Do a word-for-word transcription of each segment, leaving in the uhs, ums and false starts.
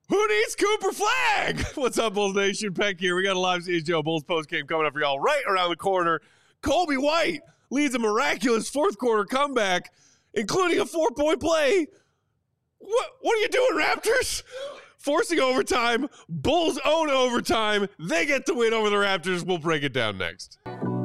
Who needs Cooper Flag? What's up, Bulls Nation? Peck here. We got a live C H G O Bulls postgame coming up for y'all right around the corner. Coby White leads a miraculous fourth quarter comeback, including a four-point play. What, what are you doing, Raptors? Forcing overtime. Bulls own overtime. They get the win over the Raptors. We'll break it down next.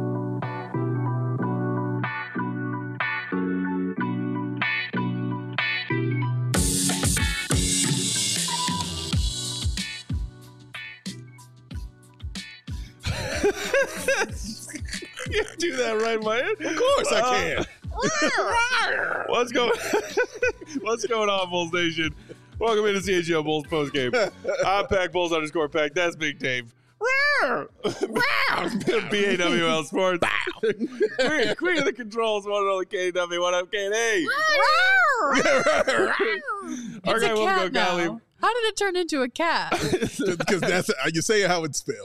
You do that right, man? Of course I can. Uh, what's going What's going on, Bulls Nation? Welcome into C H G O Bulls postgame. I'm Pack Bulls underscore Pack. That's Big Dave. B A W L Sports. Queen, Queen of the controls. One and only K W. What up, K D? Our guy won't go, Kylie. How did it turn into a cat? Because that's you say how it's spelled.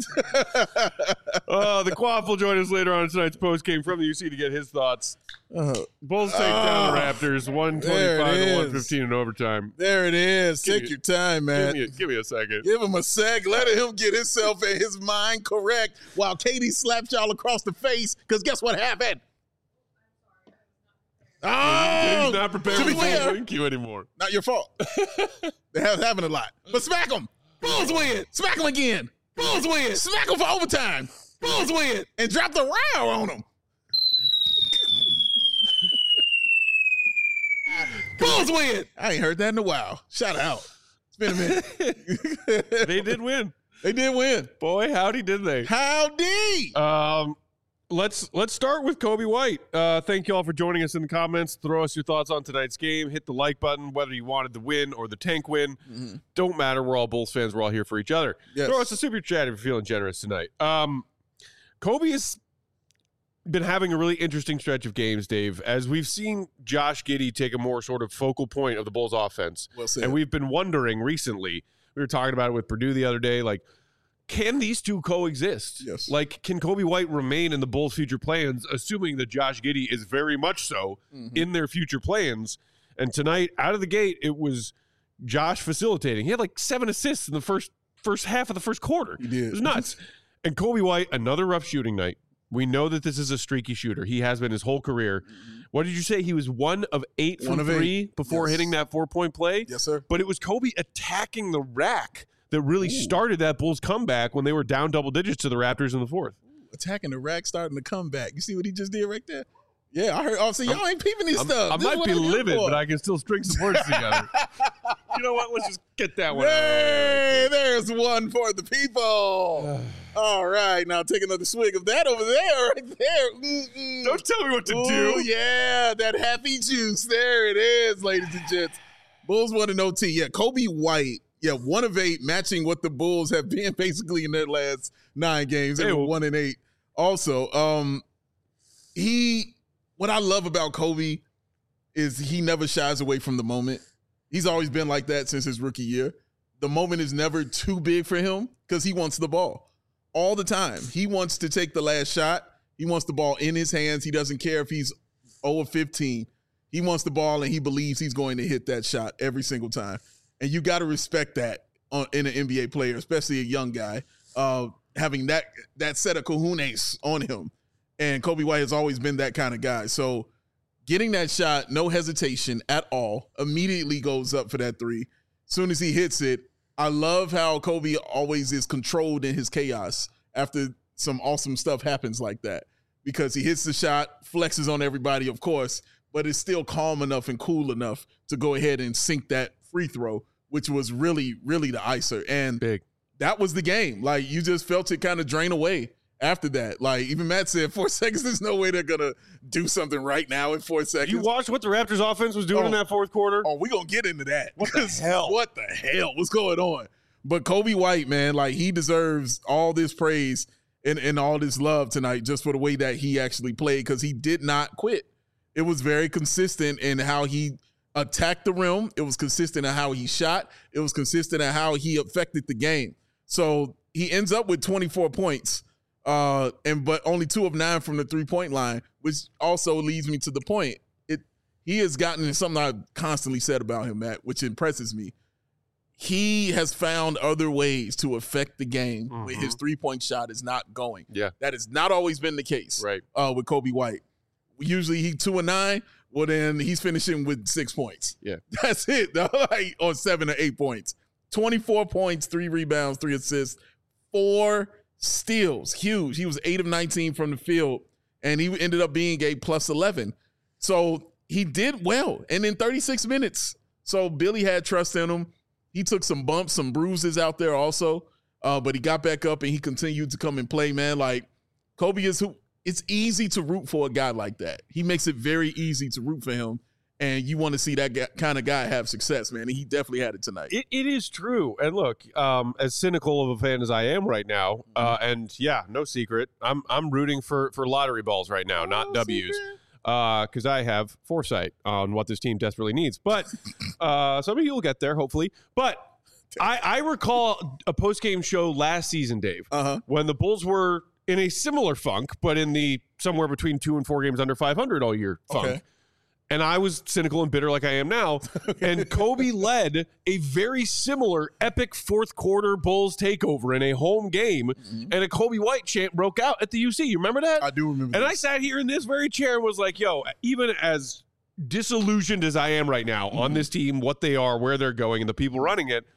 uh, the Quaff will join us later on in tonight's postgame from the U C to get his thoughts. Uh, Bulls take uh, down the Raptors, one twenty-five to one fifteen in overtime. There it is. Give Take me, your time, man. Give me, a, give me a second. Give him a sec. Let him get himself and his mind correct while Katie slapped y'all across the face. Because guess what happened? Oh, he's not prepared for the win queue anymore. Not your fault. They have having a lot. But smack them. Bulls win. Smack them again. Bulls win. Smack them for overtime. Bulls win. And drop the row on them. Bulls win. I ain't heard that in a while. Shout out. It's been a minute. They did win. They did win. Boy, howdy did they. Howdy. Um, let's let's start with Coby White. Uh, thank you all for joining us in the comments. Throw us your thoughts on tonight's game. Hit the like button, whether you wanted the win or the tank win. Mm-hmm. Don't matter. We're all Bulls fans. We're all here for each other. Yes. Throw us a super chat if you're feeling generous tonight. Um, Coby has been having a really interesting stretch of games, Dave, as we've seen Josh Giddey take a more sort of focal point of the Bulls offense. Well said. And we've been wondering recently, we were talking about it with Purdue the other day, like, can these two coexist? Yes. Like, can Coby White remain in the Bulls' future plans, assuming that Josh Giddey is very much so mm-hmm. in their future plans? And tonight, out of the gate, it was Josh facilitating. He had like seven assists in the first first half of the first quarter. He did. It was nuts. And Coby White, another rough shooting night. We know that this is a streaky shooter. He has been his whole career. Mm-hmm. What did you say? He was one of eight one from of three eight. before yes. hitting that four-point play? Yes, sir. But it was Coby attacking the rack that really Ooh. started that Bulls comeback when they were down double digits to the Raptors in the fourth. Ooh, attacking the rack, starting the comeback. You see what he just did right there? Yeah, I heard. Oh, see, y'all I'm, ain't peeping this I'm, stuff. I this might be livid, but I can still string some words together. You know what? Let's just get that one hey, out. There's one for the people. All right, now take another swig of that over there, right there. Mm-mm. Don't tell me what to Ooh, do. Yeah, that happy juice. There it is, ladies and gents. Bulls won an O T. Yeah, Coby White. Yeah, one of eight, matching what the Bulls have been basically in their last nine games. They hey, were well, one and eight. Also, um, he. What I love about Coby is he never shies away from the moment. He's always been like that since his rookie year. The moment is never too big for him because he wants the ball all the time. He wants to take the last shot. He wants the ball in his hands. He doesn't care if he's oh of fifteen. He wants the ball, and he believes he's going to hit that shot every single time. And you got to respect that on, in an N B A player, especially a young guy, uh, having that that set of cojones on him. And Coby White has always been that kind of guy. So getting that shot, no hesitation at all, immediately goes up for that three. As soon as he hits it, I love how Coby always is controlled in his chaos after some awesome stuff happens like that. Because he hits the shot, flexes on everybody, of course, but is still calm enough and cool enough to go ahead and sink that free throw, which was really, really the icer. And Big. That was the game. Like, you just felt it kind of drain away. After that, like even Matt said, four seconds, there's no way they're going to do something right now in four seconds. You watched what the Raptors offense was doing oh, in that fourth quarter? Oh, we're going to get into that. What the hell? What the hell? What's going on? But Coby White, man, like he deserves all this praise and, and all this love tonight just for the way that he actually played because he did not quit. It was very consistent in how he attacked the rim. It was consistent in how he shot. It was consistent in how he affected the game. So he ends up with twenty-four points. Uh, and but only two of nine from the three-point line, which also leads me to the point. It he has gotten something I've constantly said about him, Matt, which impresses me. he has found other ways to affect the game Mm-hmm. when his three-point shot is not going. Yeah. That has not always been the case Right. uh, with Coby White. Usually he two and nine. Well, then he's finishing with six points. Yeah. That's it. Like, or seven or eight points. twenty-four points, three rebounds, three assists, four steals. Huge. He was eight of nineteen from the field, and he ended up being a plus eleven. So he did well. And in thirty-six minutes, so Billy had trust in him. He took some bumps, some bruises out there also, uh, but he got back up and he continued to come and play, man. Like, Coby is who. It's easy to root for a guy like that. He makes it very easy to root for him, and you want to see that guy, kind of guy have success, man. And he definitely had it tonight. It, it is true. And look, um, as cynical of a fan as I am right now, uh, and yeah, no secret, I'm I'm rooting for for lottery balls right now, not W's, because uh, I have foresight on what this team desperately needs. But uh, some of you will get there, hopefully. But I, I recall a post-game show last season, Dave, Uh-huh. when the Bulls were in a similar funk, but in the somewhere between two and four games under five hundred all year funk. Okay. And I was cynical and bitter like I am now. And Coby led a very similar epic fourth quarter Bulls takeover in a home game. Mm-hmm. And a Coby White chant broke out at the U C. You remember that? I do remember And this. I sat here in this very chair and was like, yo, even as disillusioned as I am right now Mm-hmm. on this team, what they are, where they're going, and the people running it,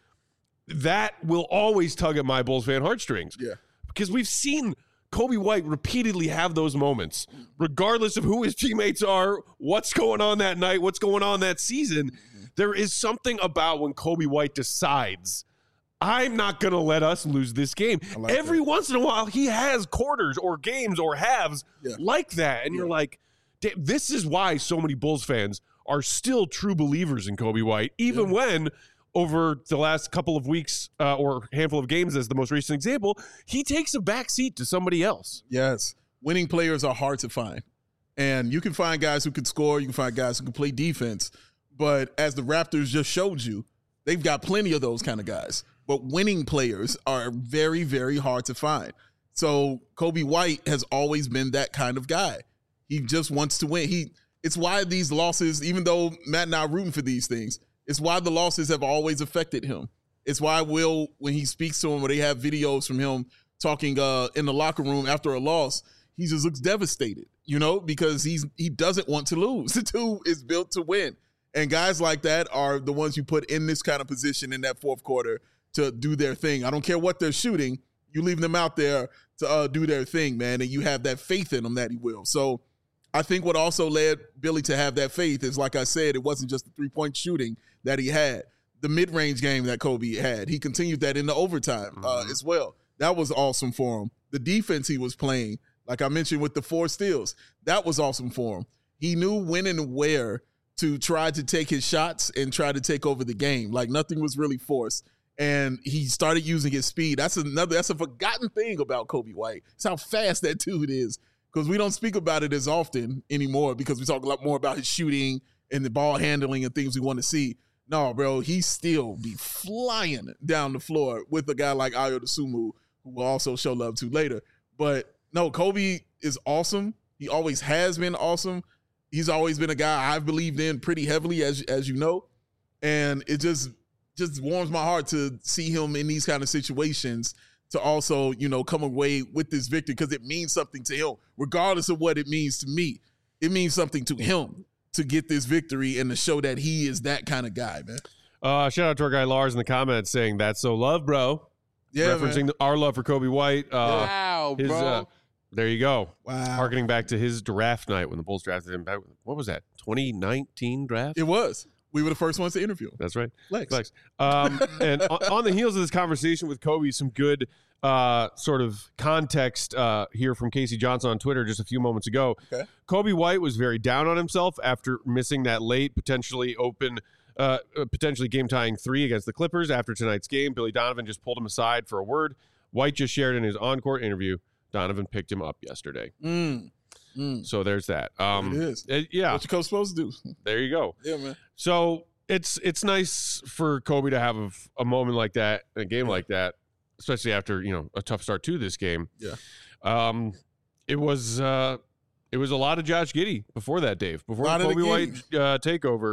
that will always tug at my Bulls fan heartstrings. Yeah. Because we've seen Coby White repeatedly have those moments, regardless of who his teammates are, what's going on that night, what's going on that season. There is something about when Coby White decides, I'm not going to let us lose this game. like Every that. once in a while, he has quarters or games or halves Yeah. like that. And you're like, "Damn, this is why so many Bulls fans are still true believers in Coby White, even Yeah. when over the last couple of weeks uh, or handful of games as the most recent example, he takes a back seat to somebody else. Yes. Winning players are hard to find. And you can find guys who can score, you can find guys who can play defense. But as the Raptors just showed you, they've got plenty of those kind of guys. But winning players are very, very hard to find. So Coby White has always been that kind of guy. He just wants to win. He it's why these losses, even though Matt and I are rooting for these things, it's why the losses have always affected him. It's why Will, when he speaks to him, or they have videos from him talking uh, in the locker room after a loss, he just looks devastated, you know, because he's he doesn't want to lose. The dude is built to win. And guys like that are the ones you put in this kind of position in that fourth quarter to do their thing. I don't care what they're shooting. You leave them out there to uh, do their thing, man, and you have that faith in them that he will. So I think what also led Billy to have that faith is, like I said, it wasn't just the three-point shooting that he had. The mid-range game that Coby had, he continued that in the overtime uh, Mm-hmm. as well. That was awesome for him. The defense he was playing, like I mentioned with the four steals, that was awesome for him. He knew when and where to try to take his shots and try to take over the game. Like nothing was really forced. And he started using his speed. That's another, that's a forgotten thing about Coby White. It's how fast that dude is. Because we don't speak about it as often anymore because we talk a lot more about his shooting and the ball handling and things we want to see. No, bro, he still be flying down the floor with a guy like Ayo Dosunmu, who we'll also show love to later. But no, Coby is awesome. He always has been awesome. He's always been a guy I've believed in pretty heavily, as as you know. And it just just warms my heart to see him in these kind of situations to also, you know, come away with this victory because it means something to him, regardless of what it means to me. It means something to him to get this victory and to show that he is that kind of guy, man. Uh, shout out to our guy Lars in the comments saying, that's so love, bro. Yeah, Referencing man. our love for Coby White. Uh, Wow, his, bro. uh, there you go. Wow. Harkening back to his draft night when the Bulls drafted him back. What was that? twenty nineteen draft? It was. We were the first ones to interview him. That's right. Flex. Flex. Um, and on, on the heels of this conversation with Coby, some good uh, sort of context uh, here from Casey Johnson on Twitter just a few moments ago. Okay. Coby White was very down on himself after missing that late, potentially open, uh, potentially game-tying three against the Clippers after tonight's game. Billy Donovan just pulled him aside for a word. White just shared in his on-court interview, Donovan picked him up yesterday. Mm. Mm. So there's that. Um, It is. uh, yeah, What your coach supposed to do? there you go. Yeah, man. So it's it's nice for Coby to have a, a moment like that, a game like that, especially after, you know, a tough start to this game. Yeah. Um, it was uh, it was a lot of Josh Giddey before that, Dave. Before the Lot of the Coby White Giddey. uh, takeover,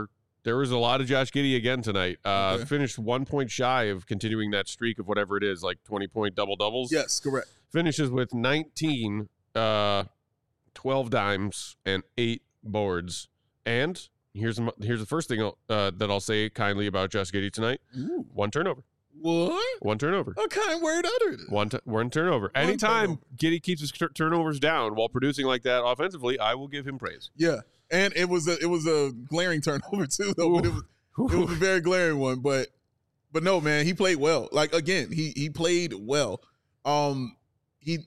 there was a lot of Josh Giddey again tonight. Uh, Okay. Finished one point shy of continuing that streak of whatever it is, like twenty-point double-doubles. Yes, correct. Finishes with nineteen, uh, twelve dimes, and eight boards. And here's here's the first thing I'll, uh, that I'll say kindly about Josh Giddey tonight. Ooh. One turnover. What? One turnover. A kind word uttered. One, t- one turnover. One Anytime turnover. Giddey keeps his tur- turnovers down while producing like that offensively, I will give him praise. Yeah, and it was a it was a glaring turnover too, though. But it was it was a very glaring one. But but no, man, he played well. Like again, he he played well. Um, he.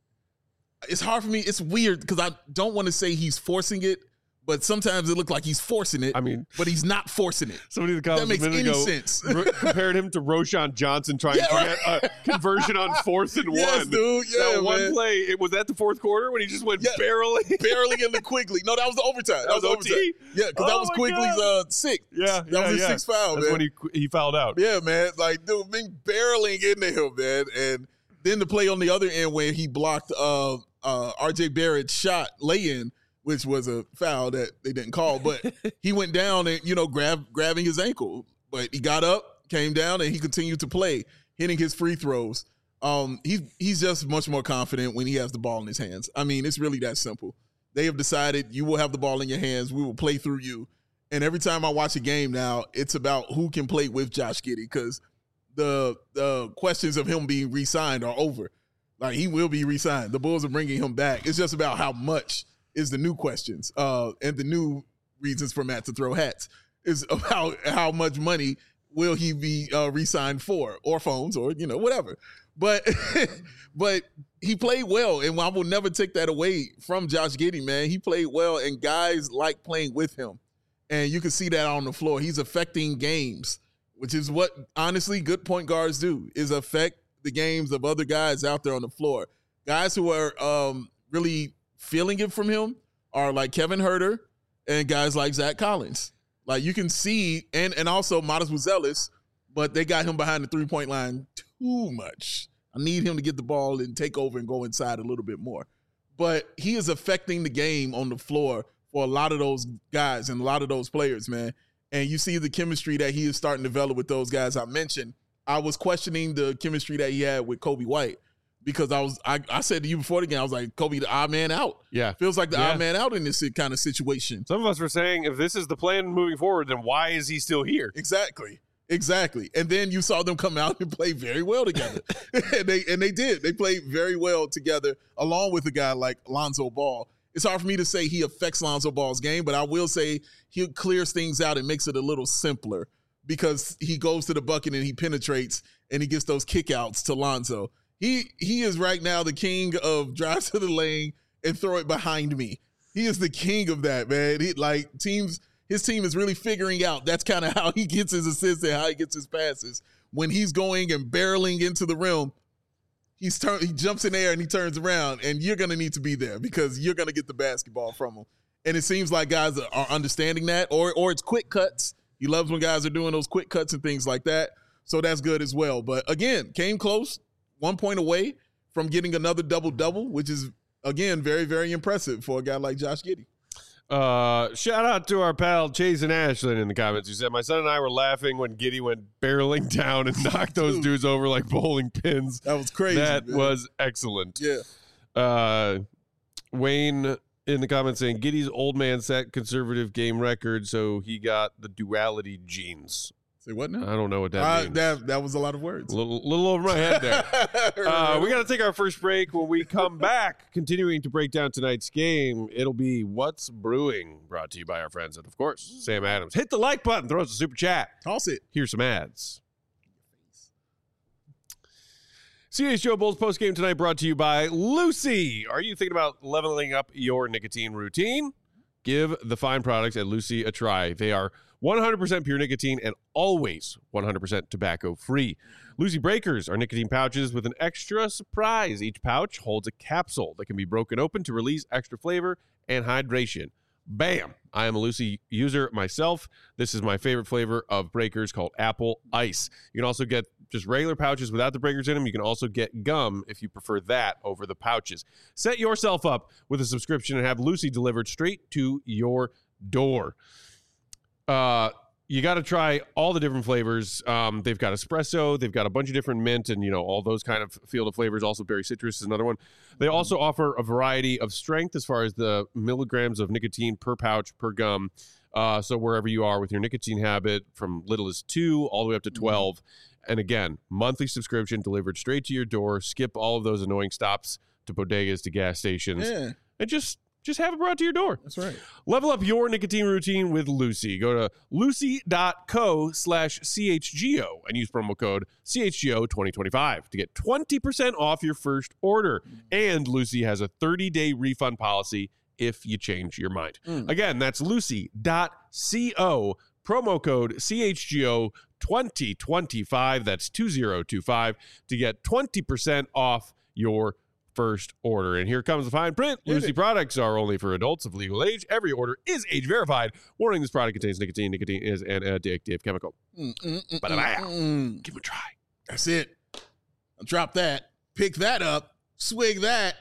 It's hard for me. It's weird because I don't want to say he's forcing it, but sometimes it looks like he's forcing it. I mean, but he's not forcing it. somebody in the That comments makes a minute any ago sense. r- compared him to Roshan Johnson trying Yeah, to right. get a conversion on fourth and Yes, one. dude. Yeah, that one man. play, it was at the fourth quarter when he just went Yeah. barreling. Barely into Quigley. No, that was the overtime. That, That was O overtime. T? Yeah, because that Oh was my Quigley's uh, sixth. Yeah, that yeah, was his yeah. sixth foul, That's man. when he he fouled out. Yeah, man. Like, dude, being barreling into him, man. And then the play on the other end where he blocked uh, uh, R J Barrett's shot lay-in, which was a foul that they didn't call. But he went down and, you know, grab, grabbing his ankle. But he got up, came down, and he continued to play, hitting his free throws. Um, he's, he's just much more confident when he has the ball in his hands. I mean, it's really that simple. They have decided you will have the ball in your hands. We will play through you. And every time I watch a game now, it's about who can play with Josh Giddey because the the questions of him being re-signed are over. Like, he will be re-signed. The Bulls are bringing him back. It's just about how much is the new questions uh, and the new reasons for Matt to throw hats is about how much money will he be uh, re-signed for, or phones, or, you know, whatever. But but he played well, and I will never take that away from Josh Giddey, man. He played well, and guys like playing with him. And you can see that on the floor. He's affecting games, which is what, honestly, good point guards do, is affect the games of other guys out there on the floor. Guys who are um, really feeling it from him are like Kevin Huerter and guys like Zach Collins. Like, you can see, and and also Modest Buzelis, but they got him behind the three-point line too much. I need him to get the ball and take over and go inside a little bit more. But he is affecting the game on the floor for a lot of those guys and a lot of those players, man. And you see the chemistry that he is starting to develop with those guys I mentioned. I was questioning the chemistry that he had with Kobe White because I was I, I said to you before the game, I was like, Kobe, the odd man out. Yeah. Feels like the Yeah. odd man out in this kind of situation. Some of us were saying, if this is the plan moving forward, then why is he still here? Exactly. Exactly. And then you saw them come out and play very well together. and they and they did. They played very well together, along with a guy like Lonzo Ball. It's hard for me to say he affects Lonzo Ball's game, but I will say he clears things out and makes it a little simpler because he goes to the bucket and he penetrates and he gets those kickouts to Lonzo. He he is right now the king of drive to the lane and throw it behind me. He is the king of that, man. He, like teams, his team is really figuring out that's kind of how he gets his assists and how he gets his passes. When he's going and barreling into the rim, he's turn, he jumps in the air and he turns around, and you're going to need to be there because you're going to get the basketball from him. And it seems like guys are understanding that, or or it's quick cuts. He loves when guys are doing those quick cuts and things like that. So that's good as well. But again, came close, one point away from getting another double-double, which is, again, very, very impressive for a guy like Josh Giddey. Uh, shout out to our pal Chase and Ashlyn in the comments who said, my son and I were laughing when Giddey went barreling down and knocked those Dude. dudes over like bowling pins. That was crazy. That man. was excellent. Yeah. Uh, Wayne in the comments saying Giddey's old man set conservative game record, so he got the duality genes. Say what now? I don't know what that Uh, means. that, that was a lot of words. A little, little over my head there. Uh, we got to take our first break. When we come back, continuing to break down tonight's game, it'll be What's Brewing, brought to you by our friends and, of course, Sam Adams. Hit the like button. Throw us a super chat. Toss it. Here's some ads. C H Joe Bulls postgame tonight brought to you by Lucy. Are you thinking about leveling up your nicotine routine? Give the fine products at Lucy a try. They are one hundred percent pure nicotine and always one hundred percent tobacco free. Lucy Breakers are nicotine pouches with an extra surprise. Each pouch holds a capsule that can be broken open to release extra flavor and hydration. Bam! I am a Lucy user myself. This is my favorite flavor of Breakers, called Apple Ice. You can also get just regular pouches without the breakers in them. You can also get gum if you prefer that over the pouches. Set yourself up with a subscription and have Lucy delivered straight to your door. Uh, you got to try all the different flavors. Um, they've got espresso. They've got a bunch of different mint and, you know, all those kind of field of flavors. Also, berry citrus is another one. They also offer a variety of strength as far as the milligrams of nicotine per pouch per gum. Uh, so wherever you are with your nicotine habit, from little as two all the way up to twelve. Mm-hmm. And again, monthly subscription delivered straight to your door. Skip all of those annoying stops to bodegas, to gas stations, Yeah. and just just have it brought to your door. That's right. Level up your nicotine routine with Lucy. Go to lucy.co slash CHGO and use promo code C H G O twenty twenty-five to get twenty percent off your first order. And Lucy has a thirty-day refund policy if you change your mind. Mm. Again, that's lucy.co, promo code C H G O twenty twenty-five. That's two zero two five to get twenty percent off your first order. And here comes the fine print. Lucy products are only for adults of legal age. Every order is age verified. Warning, this product contains nicotine. Nicotine is an addictive chemical. Mm, mm, mm, but mm, mm. Give it a try. That's it. Drop that. Pick that up. Swig that.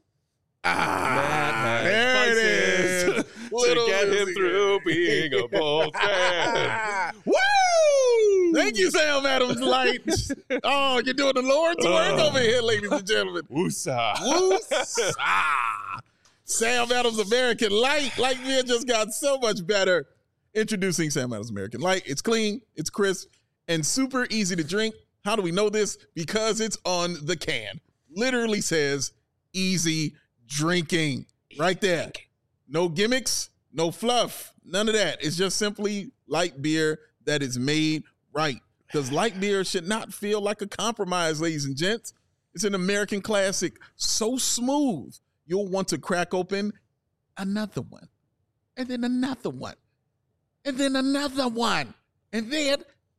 Ah, there it is. To get him through being a Bulls fan. Woo! Thank you, Sam Adams Light. Oh, you're doing the Lord's work over here, ladies and gentlemen. Woosa. Woosa. Sam Adams American Light. Light beer just got so much better. Introducing Sam Adams American Light. It's clean, it's crisp, and super easy to drink. How do we know this? Because it's on the can. Literally says easy drinking right there. No gimmicks, no fluff, none of that. It's just simply light beer that is made right. Because light beer should not feel like a compromise, ladies and gents. It's an American classic, so smooth, you'll want to crack open another one, and then another one, and then another one, and then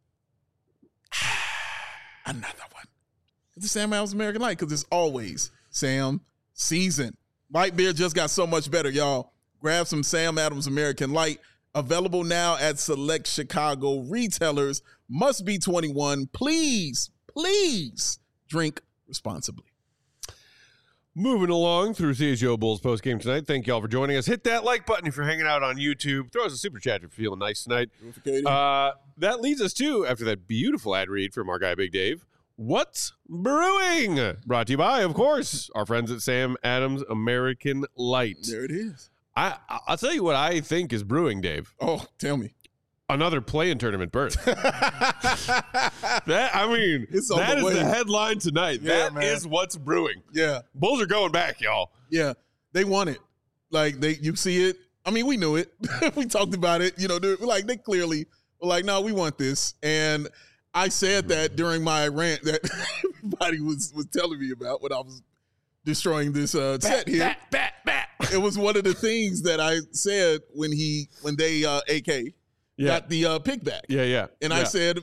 another one. It's the Sam Adams American Light, because it's always Sam season. Light beer just got so much better, y'all. Grab some Sam Adams American Light. Available now at select Chicago retailers. Must be twenty-one. Please, please drink responsibly. Moving along through C H G O Bulls postgame tonight. Thank you all for joining us. Hit that like button if you're hanging out on YouTube. Throw us a super chat if you're feeling nice tonight. Uh, that leads us to, after that beautiful ad read from our guy Big Dave, What's Brewing? Brought to you by, of course, our friends at Sam Adams American Light. There it is. I, I'll tell you what I think is brewing, Dave. Oh, tell me. Another play-in tournament berth. that I mean, it's on that the is way. the headline tonight. Yeah, that man. is what's brewing. Yeah. Bulls are going back, y'all. Yeah. They want it. Like, they, you see it. I mean, we knew it. We talked about it. You know, they're, like, they clearly were like, no, we want this. And I said that during my rant that everybody was, was telling me about when I was destroying this uh, bat, set here. Bat, bat, bat. It was one of the things that I said when he, when they, uh, A K, yeah. got the uh, pick back. Yeah, yeah. And yeah. I said,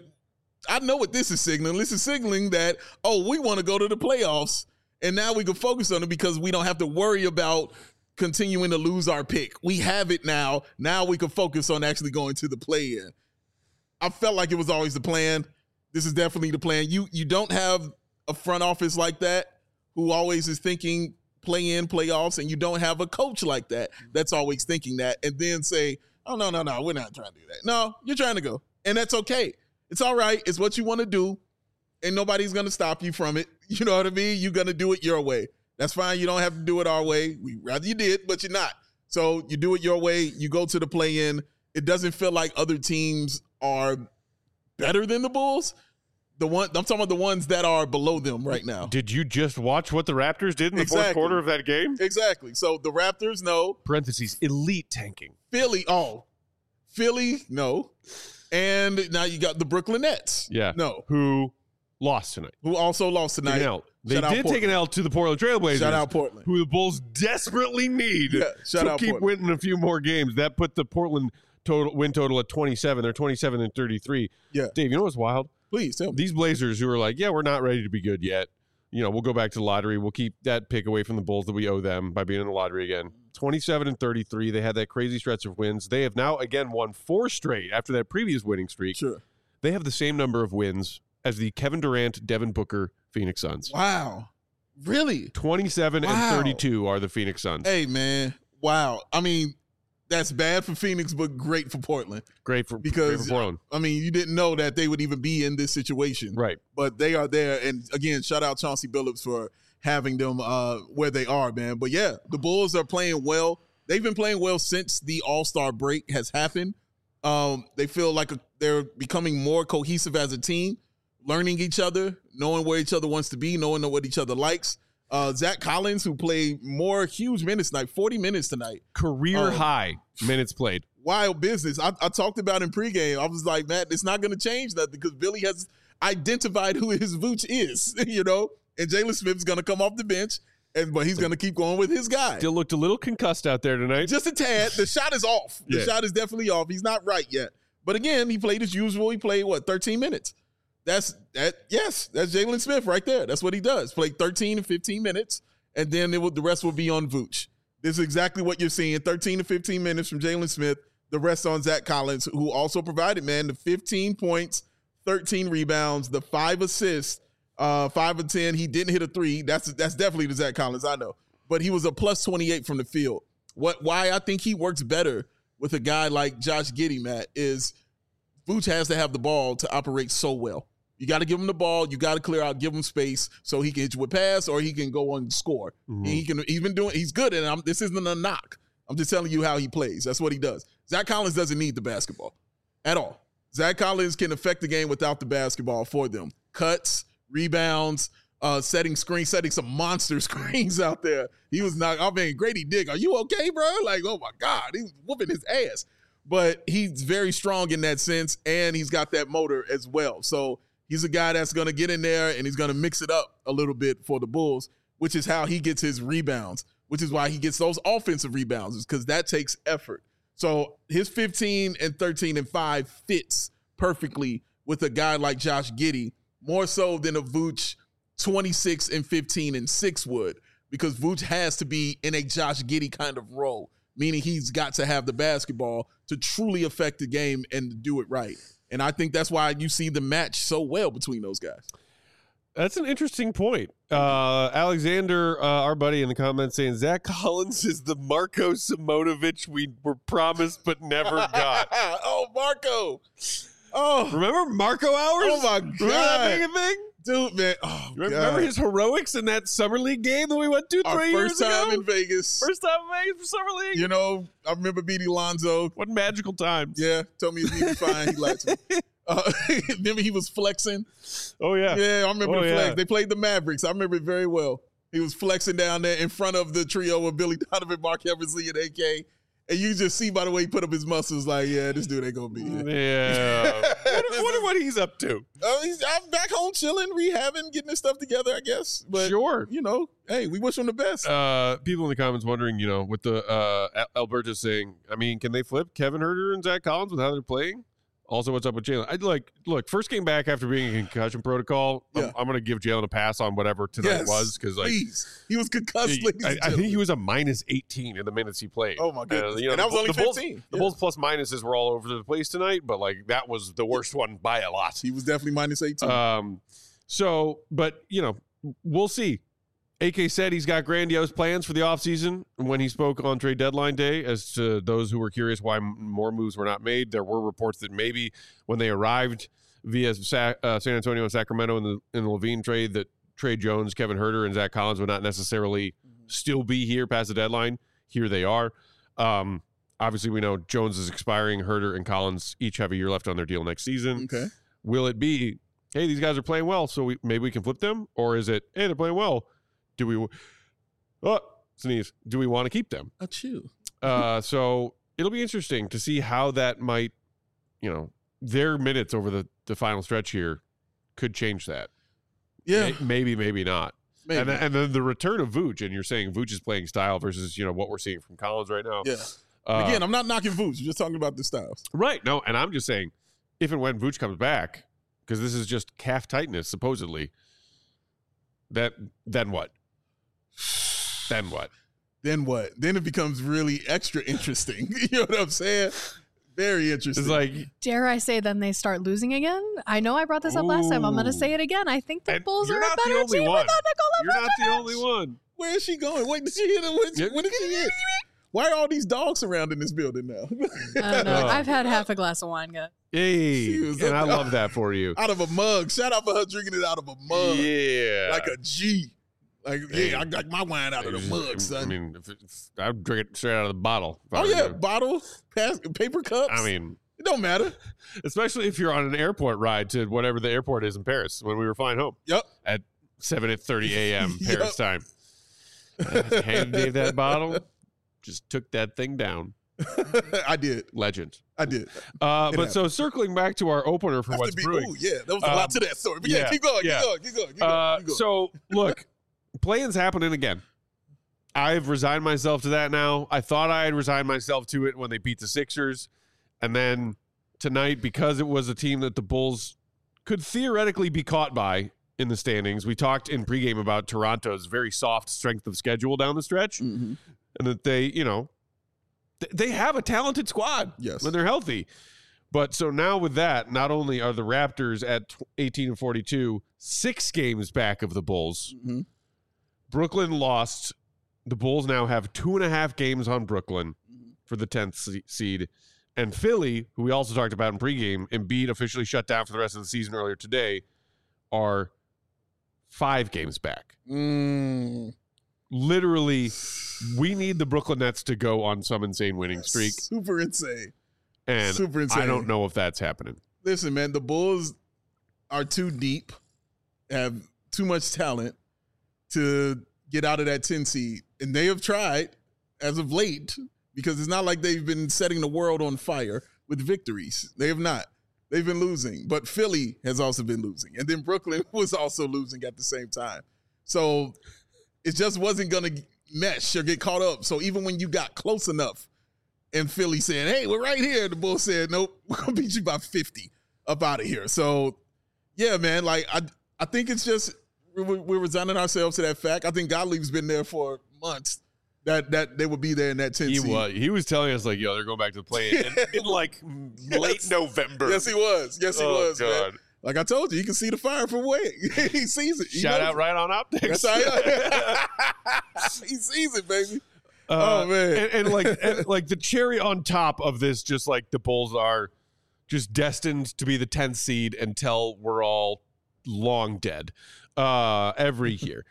I know what this is signaling. This is signaling that, oh, we want to go to the playoffs, and now we can focus on it because we don't have to worry about continuing to lose our pick. We have it now. Now we can focus on actually going to the play-in. I felt like it was always the plan. This is definitely the plan. You you don't have a front office like that who always is thinking play-in, playoffs, and you don't have a coach like that that's always thinking that, and then say, oh, no, no, no, we're not trying to do that. No, you're trying to go, and that's okay. It's all right. It's what you want to do, and nobody's going to stop you from it. You know what I mean? You're going to do it your way. That's fine. You don't have to do it our way. We'd rather you did, but you're not. So you do it your way. You go to the play-in. It doesn't feel like other teams are better than the Bulls. The one I'm talking about the ones that are below them right now. Did you just watch what the Raptors did in the Exactly. fourth quarter of that game? Exactly. So the Raptors, no. Parentheses, elite tanking. Philly, oh. Philly, no. And now you got the Brooklyn Nets. Yeah. No. Who lost tonight. Who also lost tonight. Taking an L. They Shout out did take an L to the Portland Trailblazers. Shout out Portland. Who the Bulls desperately need Yeah, shout to out keep Portland. winning a few more games. That put the Portland total win total at twenty-seven. They're twenty-seven and thirty-three. Yeah. Dave, you know what's wild? Please tell me. These Blazers who are like, yeah, we're not ready to be good yet. You know, we'll go back to the lottery. We'll keep that pick away from the Bulls that we owe them by being in the lottery again. twenty-seven and thirty-three. They had that crazy stretch of wins. They have now again won four straight after that previous winning streak. Sure. They have the same number of wins as the Kevin Durant, Devin Booker Phoenix Suns. Wow. Really? twenty-seven Wow. and thirty-two are the Phoenix Suns. Hey, man. Wow. I mean, that's bad for Phoenix, but great for Portland. Great for because great for Portland. I mean, you didn't know that they would even be in this situation, Right? But they are there, and again, shout out Chauncey Billups for having them uh, where they are, man. But yeah, the Bulls are playing well. They've been playing well since the All-Star break has happened. Um, they feel like a, they're becoming more cohesive as a team, learning each other, knowing where each other wants to be, knowing what each other likes. Uh, Zach Collins, who played more huge minutes tonight, forty minutes tonight. Career um, high minutes played. Wild business. I, I talked about in pregame. I was like, man, it's not going to change nothing because Billy has identified who his Vooch is, you know? And Jalen Smith's going to come off the bench, and but he's going to keep going with his guy. Still looked a little concussed out there tonight. Just a tad. The shot is off. The yeah. shot is definitely off. He's not right yet. But again, he played as usual. He played, what, thirteen minutes? That's that. Yes, that's Jalen Smith right there. That's what he does. Played thirteen and fifteen minutes. And then it will, the rest will be on Vooch. This is exactly what you're seeing. thirteen to fifteen minutes from Jalen Smith. The rest on Zach Collins, who also provided, man, the fifteen points, thirteen rebounds, the five assists, uh, five of ten. He didn't hit a three. That's that's definitely the Zach Collins, I know. But he was a plus twenty-eight from the field. What? Why I think he works better with a guy like Josh Giddey, Matt, is Vooch has to have the ball to operate so well. You got to give him the ball. You got to clear out, give him space so he can hit you with pass or he can go on and score. Mm-hmm. And he can. He's been doing. He's good, and I'm, this isn't a knock. I'm just telling you how he plays. That's what he does. Zach Collins doesn't need the basketball at all. Zach Collins can affect the game without the basketball for them. Cuts, rebounds, uh, setting screens, setting some monster screens out there. He was not. I mean, Grady Dick, are you okay, bro? Like, oh my God, he's whooping his ass. But he's very strong in that sense, and he's got that motor as well. So. He's a guy that's going to get in there and he's going to mix it up a little bit for the Bulls, which is how he gets his rebounds, which is why he gets those offensive rebounds, is because that takes effort. So his fifteen and thirteen and five fits perfectly with a guy like Josh Giddey, more so than a Vooch twenty-six and fifteen and six would, because Vooch has to be in a Josh Giddey kind of role, meaning he's got to have the basketball to truly affect the game and to do it right. And I think that's why you see the match so well between those guys. That's an interesting point. Uh, Alexander, uh, our buddy in the comments, saying Zach Collins is the Marko Simonovic we were promised but never got. Oh, Marco. Oh, remember Marco hours? Oh, my God. Remember that being a thing? Dude, man. Oh, remember God. his heroics in that summer league game that we went to Our three years first time ago? in Vegas. First time in Vegas for summer league. You know, I remember beating Lonzo. What magical times. Yeah, told me he was fine. He liked me. Uh, remember he was flexing? Oh, yeah. Yeah, I remember oh, the flex. Yeah. They played the Mavericks. I remember it very well. He was flexing down there in front of the trio of Billy Donovan, Mark Eversley, and A K. And you just see by the way he put up his muscles, like, yeah, this dude ain't going to be here. Yeah. wonder, wonder what he's up to. Uh, he's I'm back home chilling, rehabbing, getting his stuff together, I guess. But, sure. You know, hey, we wish him the best. Uh, people in the comments wondering, you know, with the uh, Alberta saying, I mean, can they flip Kevin Huerter and Zach Collins with how they're playing? Also, what's up with Jalen? I'd like, look, first game back after being in concussion protocol, yeah. I'm, I'm going to give Jalen a pass on whatever tonight yes, was. Because, like, please. He was concussed. He, I, I think he was a minus eighteen in the minutes he played. Oh, my goodness. Uh, you know, and that was only the fifteen. Bulls, the yeah. Bulls plus minuses were all over the place tonight, but, like, that was the worst one by a lot. He was definitely minus eighteen. Um, so, but, you know, we'll see. A K said he's got grandiose plans for the offseason when he spoke on trade deadline day. As to those who were curious why more moves were not made, there were reports that maybe when they arrived via Sa- uh, San Antonio and Sacramento in the in the Levine trade, that Trey Jones, Kevin Huerter, and Zach Collins would not necessarily mm-hmm. still be here past the deadline. Here they are. Um, obviously, we know Jones is expiring. Huerter and Collins each have a year left on their deal next season. Okay. Will it be, hey, these guys are playing well, so we, maybe we can flip them? Or is it, hey, they're playing well, do we, oh, sneeze, do we want to keep them? Achoo. Uh, so it'll be interesting to see how that might, you know, their minutes over the, the final stretch here could change that. Yeah. Maybe, maybe not. Maybe. And, then, and then the return of Vooch, and you're saying Vooch is playing style versus, you know, what we're seeing from Collins right now. Yeah. Uh, Again, I'm not knocking Vooch. I'm just talking about the styles. Right. No, and I'm just saying, if and when Vooch comes back, because this is just calf tightness, supposedly, that then what? Then what? Then what? Then it becomes really extra interesting. You know what I'm saying? Very interesting. It's like, dare I say, then they start losing again? I know I brought this up last time. I'm going to say it again. I think the and Bulls you're are a not the better only team one. without Nikola You're not the Vucevic. only one. Where is she going? Wait, did she hit it? When, Yep. when did she hit? Why are all these dogs surrounding this building now? I don't know. Oh. I've had half a glass of wine, guys. Hey, She was and I up- love that for you. Out of a mug. Shout out for her drinking it out of a mug. Yeah. Like a G. Like, Hey. yeah, I got my wine out of the mug, son. I mean, if it's, I'd drink it straight out of the bottle. if I oh, were yeah, you. bottle, pass, paper cups. I mean, it don't matter. especially if you're on an airport ride to whatever the airport is in Paris when we were flying home Yep. at seven thirty a.m. Yep. Paris time. I handed Dave that bottle, just took that thing down. I did. Legend. I did. Uh, It but so circling back to our opener for Have what's to be, brewing. ooh, yeah, there was a Um, lot to that story. But yeah, yeah, keep going, yeah. keep going, keep going, keep going. Uh, keep going. so look, play-in's happening again. I've resigned myself to that now. I thought I had resigned myself to it when they beat the Sixers. And then tonight, because it was a team that the Bulls could theoretically be caught by in the standings, we talked in pregame about Toronto's very soft strength of schedule down the stretch. Mhm. And that they, you know, th- they have a talented squad Yes. when they're healthy. But so now with that, not only are the Raptors at tw- eighteen and forty-two, six games back of the Bulls, Mhm. Brooklyn lost. The Bulls now have two and a half games on Brooklyn for the tenth se- seed. And Philly, who we also talked about in pregame, Embiid officially shut down for the rest of the season earlier today, are five games back. Mm. Literally, we need the Brooklyn Nets to go on some insane winning streak. Super insane. And Super insane. I don't know if that's happening. Listen, man, the Bulls are too deep, have too much talent to get out of that ten seed. And they have tried as of late, because it's not like they've been setting the world on fire with victories. They have not. They've been losing. But Philly has also been losing. And then Brooklyn was also losing at the same time. So it just wasn't going to mesh or get caught up. So even when you got close enough and Philly said, hey, we're right here, the Bulls said, nope, we're going to beat you by fifty up out of here. So, yeah, man, like I I think it's just we're, we're resigning ourselves to that fact. I think Gottlieb's been there for months that that they would be there in that ten He seed. was, he was telling us, like, yo, they're going back to the play in, in like late Yes. November. Yes, he was. Yes, he Oh, was, man. God. Like I told you, you can see the fire from away. He sees it. He Shout knows out right on optics. That's how he, he sees it, baby. Uh, Oh, man. and, and like and like the cherry on top of this, just like the Bulls are just destined to be the tenth seed until we're all long dead uh, every year.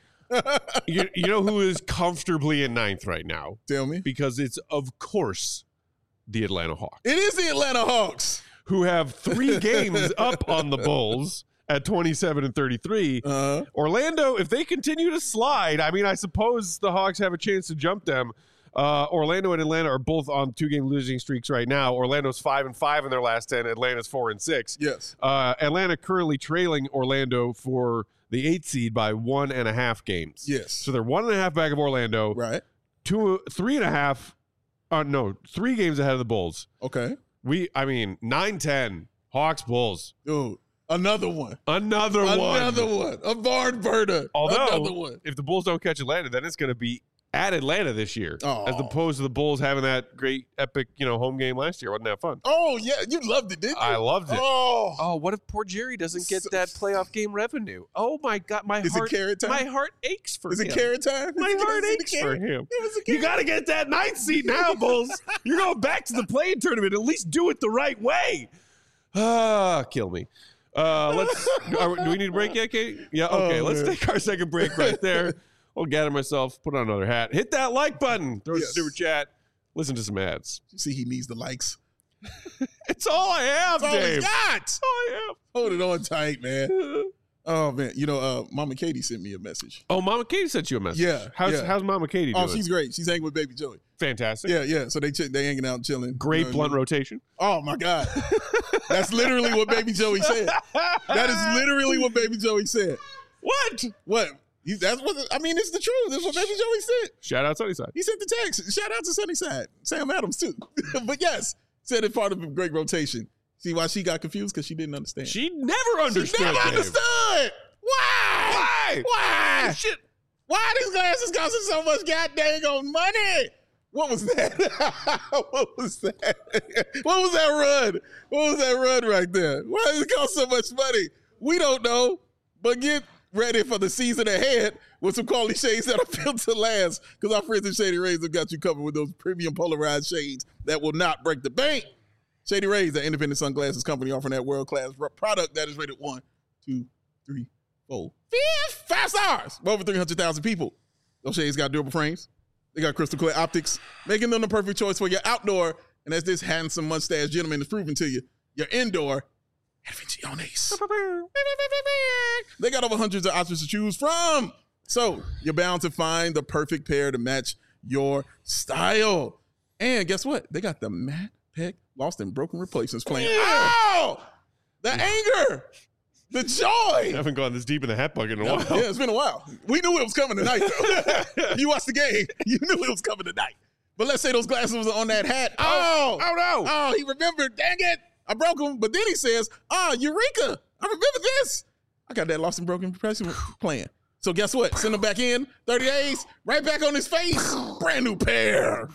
you, you know who is comfortably in ninth right now? Tell me. Because it's, of course, the Atlanta Hawks, It is the Atlanta Hawks. who have three games up on the Bulls at twenty-seven and thirty-three. Uh-huh. Orlando, if they continue to slide, I mean, I suppose the Hawks have a chance to jump them. Uh, Orlando and Atlanta are both on two-game losing streaks right now. Orlando's five and five in their last ten. Atlanta's four and six. Yes. Uh, Atlanta currently trailing Orlando for the eighth seed by one and a half games. Yes. So they're one and a half back of Orlando. Right. Two, three and a half. Uh, no, three games ahead of the Bulls. Okay. We, I mean, nine ten. Hawks, Bulls. Dude, another one. Another, one. Another one. A barn burner. Although, another one. if the Bulls don't catch Atlanta, then it's going to be at Atlanta this year, Oh. as opposed to the Bulls having that great, epic, you know, home game last year. Wasn't that fun? Oh, yeah. You loved it, didn't you? I loved it. Oh. Oh, what if poor Jerry doesn't get So- that playoff game revenue? Oh my God, my Is heart, it carrot time? my heart aches for Is him. it carrot time? My Is it- heart is it aches the for carrot? him. It was a You carrot. got to get that ninth seed now, Bulls. You're going back to the play-in tournament. At least do it the right way. Ah, kill me. Uh, let's. are, do we need a break yet, Kate? Yeah. Okay. Oh, let's man. take our second break right there. I'll gather myself, put on another hat, hit that like button, throw us Yes. a super chat, listen to some ads. You see, he needs the likes. It's all I have, That's all Dave. he's got. That's all I Hold it on tight, man. have. Oh, man. You know, uh, Mama Katie sent me a message. Oh, Mama Katie sent you a message. Yeah, How's yeah. How's Mama Katie doing? Oh, she's great. She's hanging with Baby Joey. fantastic. Yeah, yeah. So they ch- they hanging out and chilling. Great You know what I blunt mean? rotation. Oh, my God. That's literally what Baby Joey said. That is literally what Baby Joey said. What? What? He, that's what I mean. It's the truth. That's what Baby Joey said. Shout out Sunnyside. He sent the text. Shout out to Sunnyside. Sam Adams too. But yes, said it's part of a great rotation. See why she got confused? Because she didn't understand. She never understood. She never Dave. understood. Why? Why? Why? Shit. Why these glasses costing so much goddamn on money? What was that? What was that? What was that run? What was that run right there? Why does it cost so much money? We don't know. But get ready for the season ahead with some quality shades that are built to last because our friends at Shady Rays have got you covered with those premium polarized shades that will not break the bank. Shady Rays, the independent sunglasses company offering that world-class product that is rated one, two, three, four, fifth, five stars for over three hundred thousand people. Those shades got durable frames. They got crystal clear optics, making them the perfect choice for your outdoor. And as this handsome mustache gentleman is proving to you, your indoor Adventiones. They got over hundreds of options to choose from. So you're bound to find the perfect pair to match your style. And guess what? They got the Matt Peck Lost and Broken Replacements playing. Oh! The anger! The joy! I haven't gone this deep in the hat bucket in a while. Yeah, it's been a while. We knew it was coming tonight, though. You watched the game. You knew it was coming tonight. But let's say those glasses was on that hat. Oh! Oh, no! Oh, he remembered. Dang it! I broke them. But then he says, ah, oh, Eureka! I remember this. I got that Lost and Broken Replacement playing. So guess what? Send him back in. thirty days. Right back on his face. Brand new pair.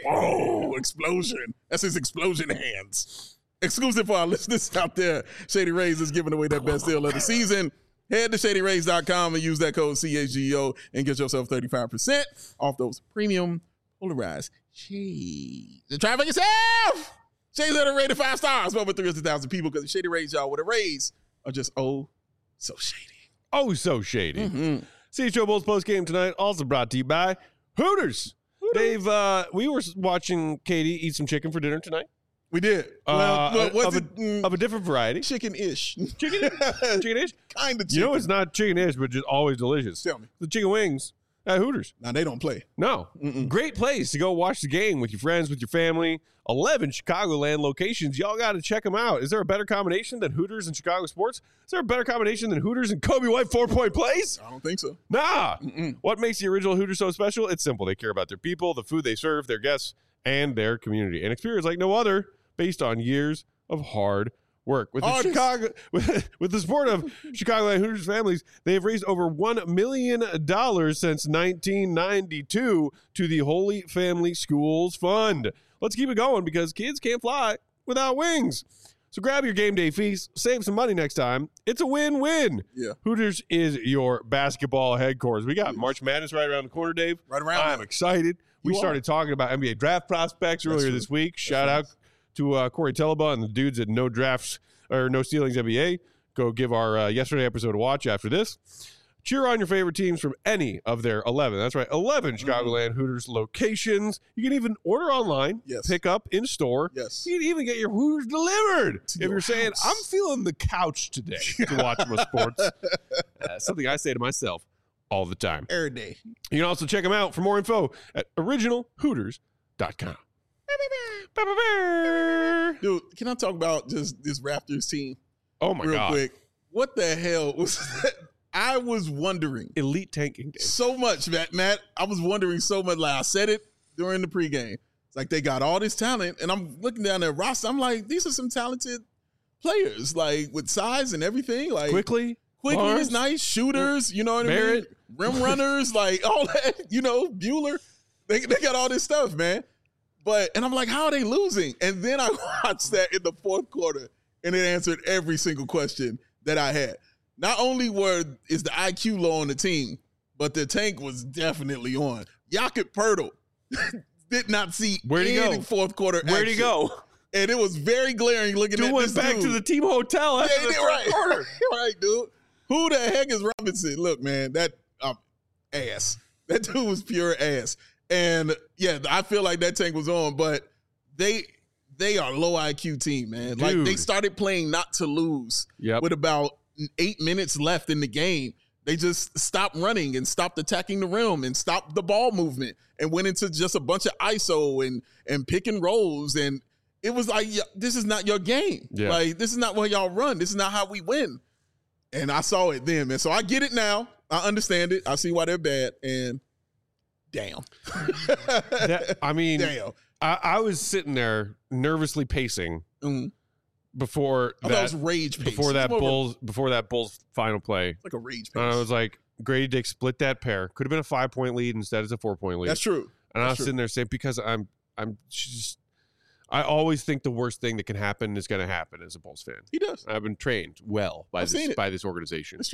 Oh, explosion. That's his explosion hands. Exclusive for our listeners out there. Shady Rays is giving away that best deal of the season. Head to shady rays dot com and use that code C H G O and get yourself thirty-five percent off those premium polarized shades. And try it for yourself. Shades that are rated five stars for over three hundred thousand people because the Shady Rays, y'all, with a raise are just oh so shady. Oh, so shady. Mm-hmm. C H O Bulls post game tonight, also brought to you by Hooters. Hooters. Dave, uh, we were watching Katie eat some chicken for dinner tonight. We did. Uh, well, well of, it, a, mm, of a different variety. chicken-ish. Chicken? Chicken-ish? Kind of chicken. You know it's not chicken-ish, but just always delicious. Tell me. The chicken wings at Hooters. Now, they don't play. No. Mm-mm. Great place to go watch the game with your friends, with your family. eleven Chicagoland locations. Y'all got to check them out. Is there a better combination than Hooters and Chicago sports? Is there a better combination than Hooters and Kobe White four-point plays? I don't think so. Nah. Mm-mm. What makes the original Hooters so special? It's simple. They care about their people, the food they serve, their guests, and their community. An experience like no other based on years of hard work. With the Artists. Chicago with, with the support of Chicagoland Hooters families, they have raised over one million dollars since nineteen ninety-two to the Holy Family Schools Fund. Let's keep it going because kids can't fly without wings. So grab your game day feast, save some money next time. It's a win-win. Yeah. Hooters is your basketball headquarters. We got March Madness right around the corner, Dave. Right around. I'm excited. We You started are. talking about N B A draft prospects earlier true. this week. Shout right. out to uh, Corey Teleba and the dudes at No Drafts or No Stealings N B A. Go give our uh, yesterday episode a watch after this. Cheer on your favorite teams from any of their eleven. That's right, eleven Chicagoland Hooters locations. You can even order online, Yes. pick up in store. Yes. You can even get your Hooters delivered. To if your you're saying, house. I'm feeling the couch today to watch my sports. Uh, something I say to myself all the time. Every day. You can also check them out for more info at original hooters dot com. Dude, can I talk about just this Raptors team Oh, my real God. quick? What the hell was that? I was wondering Elite tanking day. so much, Matt. Matt, I was wondering so much. Like I said it during the pregame. It's like they got all this talent, and I'm looking down their roster. I'm like, these are some talented players, like with size and everything. Like Quickly. quickly Barnes, is nice, shooters. You know what Barrett. I mean? Rim runners, like all that. You know, Bueller. They they got all this stuff, man. But and I'm like, how are they losing? And then I watched that in the fourth quarter, and it answered every single question that I had. Not only were is the I Q low on the team, but the tank was definitely on. Jakob Poeltl did not see Where'd he any go? fourth quarter Where'd he action. go? And it was very glaring looking Dude at went this back dude. to the team hotel Yeah, after he the did, third right. quarter. Right, dude. Who the heck is Robinson? Look, man, that um, ass. That dude was pure ass. And yeah, I feel like that tank was on, but they they are low I Q team, man. Like Dude. they started playing not to lose Yep. with about eight minutes left in the game. They just stopped running and stopped attacking the rim and stopped the ball movement and went into just a bunch of I S O and and pick and rolls. And it was like, yeah, this is not your game. Yeah. Like, this is not what y'all run. This is not how we win. And I saw it then, man. So I get it now. I understand it. I see why they're bad. And damn. That- I mean, damn. I, I was sitting there nervously pacing Mm. before I thought it was that rage pace. before It's that more of a- Bulls before that Bulls final play. like a rage pace. And I was like, Grady Dick split that pair. Could have been a five point lead instead it's a four point lead. That's true. And I That's was true. sitting there saying, because I'm, I'm just, I always think the worst thing that can happen is going to happen as a Bulls fan. He does. I've been trained well by I've seen this it. by this organization. That's true.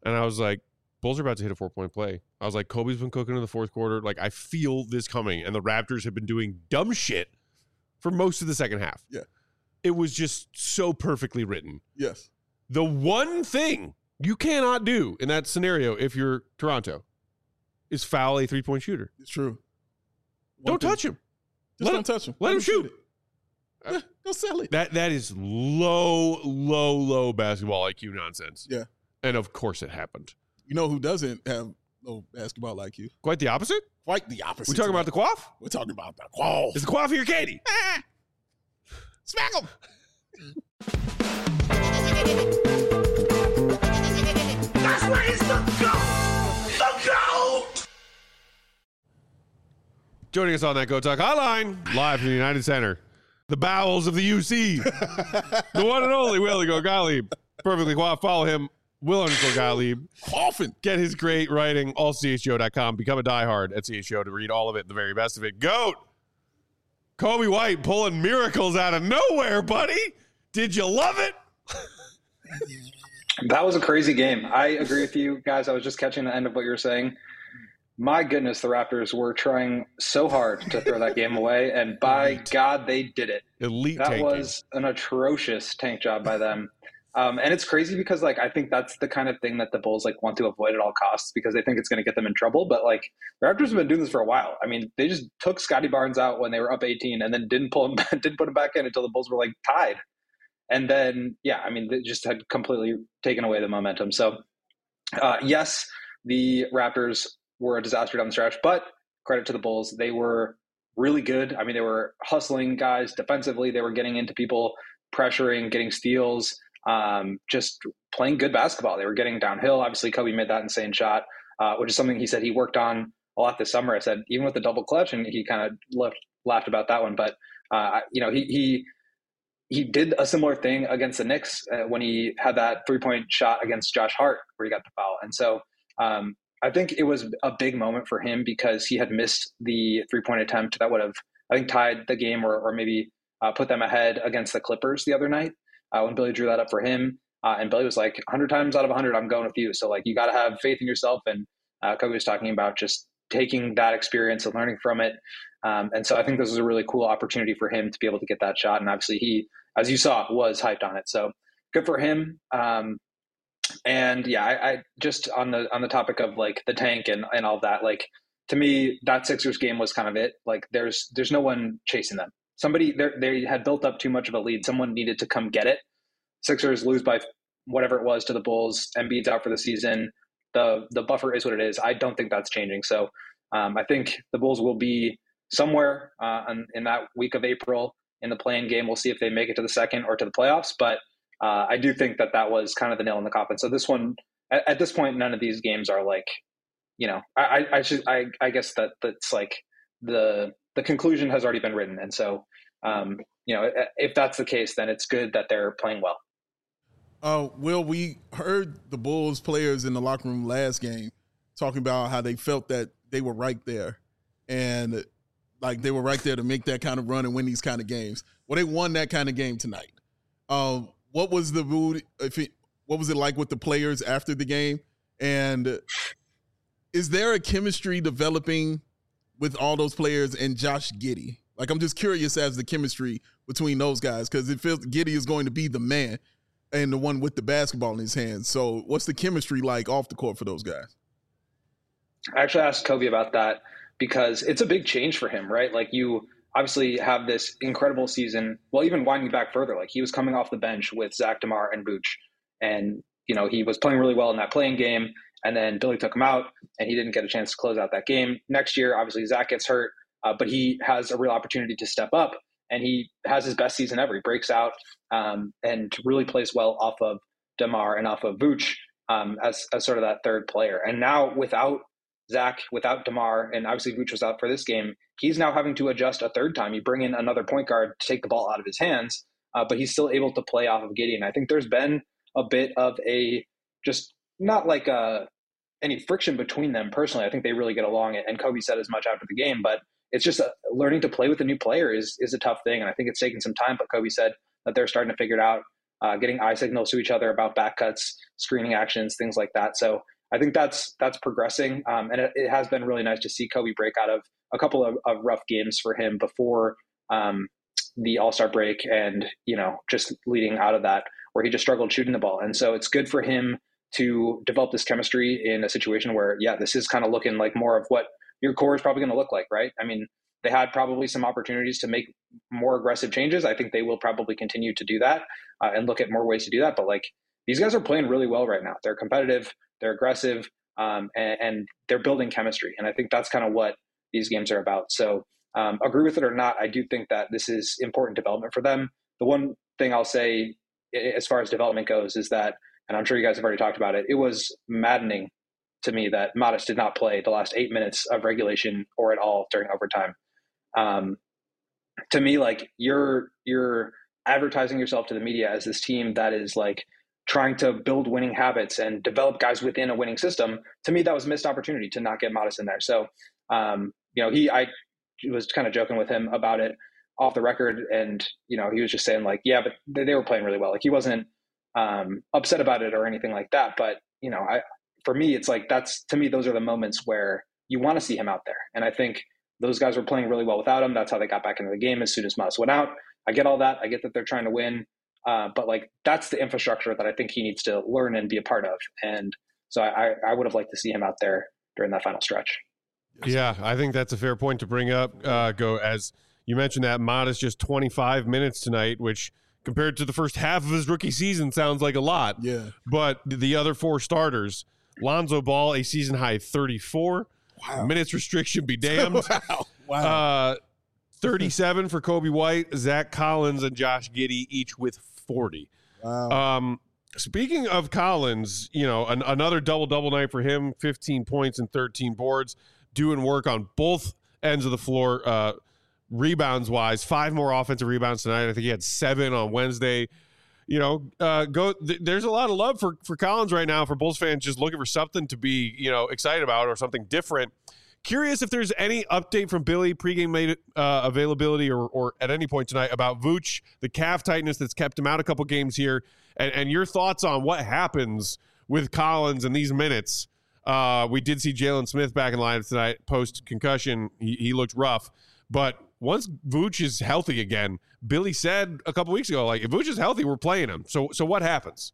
And I was like, Bulls are about to hit a four-point play. I was like, Kobe's been cooking in the fourth quarter. Like, I feel this coming. And the Raptors have been doing dumb shit for most of the second half. Yeah. It was just so perfectly written. Yes. The one thing you cannot do in that scenario if you're Toronto is foul a three-point shooter. It's true. One don't thing. touch him. Just let don't him, touch him. Let, let him shoot. shoot it. Yeah, go sell it. That That is low, low, low basketball I Q nonsense. Yeah. And of course it happened. You know who doesn't have low basketball I Q? Quite the opposite? Quite the opposite. We're talking about the quaff? We're talking about the quaff. Is the quaff your candy? Ah! Smack him. That's where it's the GOAT! The GOAT! Joining us on that Go Talk Hotline, live from the United Center, the bowels of the U C, the one and only Will Go Gottlieb. Perfectly quaff. Follow him, Will underscore Gottlieb. Coughing. Get his great writing, all C H G O dot com. Become a diehard at C H G O to read all of it, the very best of it. Goat! Coby White pulling miracles out of nowhere, buddy. Did you love it? That was a crazy game. I agree with you guys. I was just catching the end of what you were saying. My goodness, the Raptors were trying so hard to throw that game away, and by Elite. God, they did it. Elite That tanking. was an atrocious tank job by them. Um, and it's crazy because, like, I think that's the kind of thing that the Bulls, like, want to avoid at all costs because they think it's going to get them in trouble. But, like, the Raptors have been doing this for a while. I mean, they just took Scotty Barnes out when they were up eighteen and then didn't pull him, didn't put him back in until the Bulls were, like, tied. And then, yeah, I mean, they just had completely taken away the momentum. So, uh, yes, the Raptors were a disaster down the stretch, but credit to the Bulls. They were really good. I mean, they were hustling guys defensively. They were getting into people, pressuring, getting steals, um, just playing good basketball. They were getting downhill. Obviously, Kobe made that insane shot, uh, which is something he said he worked on a lot this summer. I said, even with the double clutch, and he kind of laughed, laughed about that one. But, uh, you know, he he he did a similar thing against the Knicks uh, when he had that three-point shot against Josh Hart where he got the foul. And so um, I think it was a big moment for him because he had missed the three-point attempt that would have, I think, tied the game or, or maybe uh, put them ahead against the Clippers the other night uh, when Billy drew that up for him. Uh, and Billy was like, one hundred times out of one hundred, I'm going with you. So, like, you got to have faith in yourself. And uh, Kobe was talking about just taking that experience and learning from it. Um, and so I think this was a really cool opportunity for him to be able to get that shot. And obviously he, as you saw, was hyped on it. So good for him. Um, and yeah, I, I just on the, on the topic of like the tank and, and all that, like to me, that Sixers game was kind of it. Like there's, there's no one chasing them. Somebody they had built up too much of a lead. Someone needed to come get it. Sixers lose by whatever it was to the Bulls. Embiid's out for the season. The, the buffer is what it is. I don't think that's changing. So um, I think the Bulls will be somewhere uh, in, in that week of April in the play-in game. We'll see if they make it to the second or to the playoffs. But uh, I do think that that was kind of the nail in the coffin. So this one, at, at this point, none of these games are like, you know, I, I, I should, I, I guess that that's like the, the conclusion has already been written. And so, um, you know, if that's the case, then it's good that they're playing well. Uh, Will, we heard the Bulls players in the locker room last game talking about how they felt that they were right there. And like they were right there to make that kind of run and win these kind of games. Well, they won that kind of game tonight. Um, what was the mood? If it, what was it like with the players after the game? And is there a chemistry developing with all those players and Josh Giddey? Like, I'm just curious as the chemistry between those guys because it feels Giddey is going to be the man and the one with the basketball in his hands. So, what's the chemistry like off the court for those guys? I actually asked Kobe about that because it's a big change for him, right? Like you obviously have this incredible season. Well, even winding back further, like he was coming off the bench with Zach DeMar and Vooch. And, you know, he was playing really well in that playing game. And then Billy took him out and he didn't get a chance to close out that game. Next year, obviously Zach gets hurt, uh, but he has a real opportunity to step up and he has his best season ever. He breaks out um, and really plays well off of DeMar and off of Vooch um, as, as sort of that third player. And now without Zach, without DeMar, and obviously Vooch was out for this game, he's now having to adjust a third time. You bring in another point guard to take the ball out of his hands, uh, but he's still able to play off of Giddey. And I think there's been a bit of a just not like a, any friction between them personally. I think they really get along, and Kobe said as much after the game, but it's just a, learning to play with a new player is is a tough thing. And I think it's taken some time, but Kobe said that they're starting to figure it out uh, getting eye signals to each other about back cuts, screening actions, things like that. So I think that's that's progressing, um, and it, it has been really nice to see Kobe break out of a couple of, of rough games for him before um, the All-Star break, and you know just leading out of that where he just struggled shooting the ball. And so it's good for him to develop this chemistry in a situation where, yeah, this is kind of looking like more of what your core is probably going to look like, right? I mean, they had probably some opportunities to make more aggressive changes. I think they will probably continue to do that uh, and look at more ways to do that. But like these guys are playing really well right now. They're competitive, they're aggressive, um, and, and they're building chemistry. And I think that's kind of what these games are about. So um, agree with it or not, I do think that this is important development for them. The one thing I'll say as far as development goes is that, and I'm sure you guys have already talked about it, it was maddening to me that Modest did not play the last eight minutes of regulation or at all during overtime. Um, to me, like you're you're advertising yourself to the media as this team that is like trying to build winning habits and develop guys within a winning system. To me, that was a missed opportunity to not get Modest in there. So, um, you know, he I was kind of joking with him about it off the record, and you know, he was just saying like, yeah, but they, they were playing really well. Like he wasn't um, upset about it or anything like that. But you know, I for me, it's like that's to me, those are the moments where you want to see him out there, and I think those guys were playing really well without him. That's how they got back into the game as soon as Modest went out. I get all that. I get that they're trying to win. Uh, but like, that's the infrastructure that I think he needs to learn and be a part of. And so I, I would have liked to see him out there during that final stretch. Yeah, I think that's a fair point to bring up, uh, Go. As you mentioned that Modest just twenty-five minutes tonight, which compared to the first half of his rookie season sounds like a lot. Yeah. But the other four starters, Lonzo Ball, a season high thirty-four. Wow. Minutes restriction be damned. wow. Wow. Uh, thirty-seven for Kobe White, Zach Collins, and Josh Giddey, each with forty. Wow. Um, speaking of Collins, you know, an, another double-double night for him, fifteen points and thirteen boards, doing work on both ends of the floor, uh, rebounds-wise. Five more offensive rebounds tonight. I think he had seven on Wednesday. You know, uh, go. Th- there's a lot of love for for Collins right now for Bulls fans just looking for something to be, you know, excited about or something different. Curious if there's any update from Billy pregame made, uh, availability or, or at any point tonight about Vooch, the calf tightness that's kept him out a couple games here, and, and your thoughts on what happens with Collins in these minutes. Uh, we did see Jalen Smith back in line tonight post concussion. He, he looked rough, but once Vooch is healthy again, Billy said a couple weeks ago, like, if Vooch is healthy, we're playing him. So, so what happens?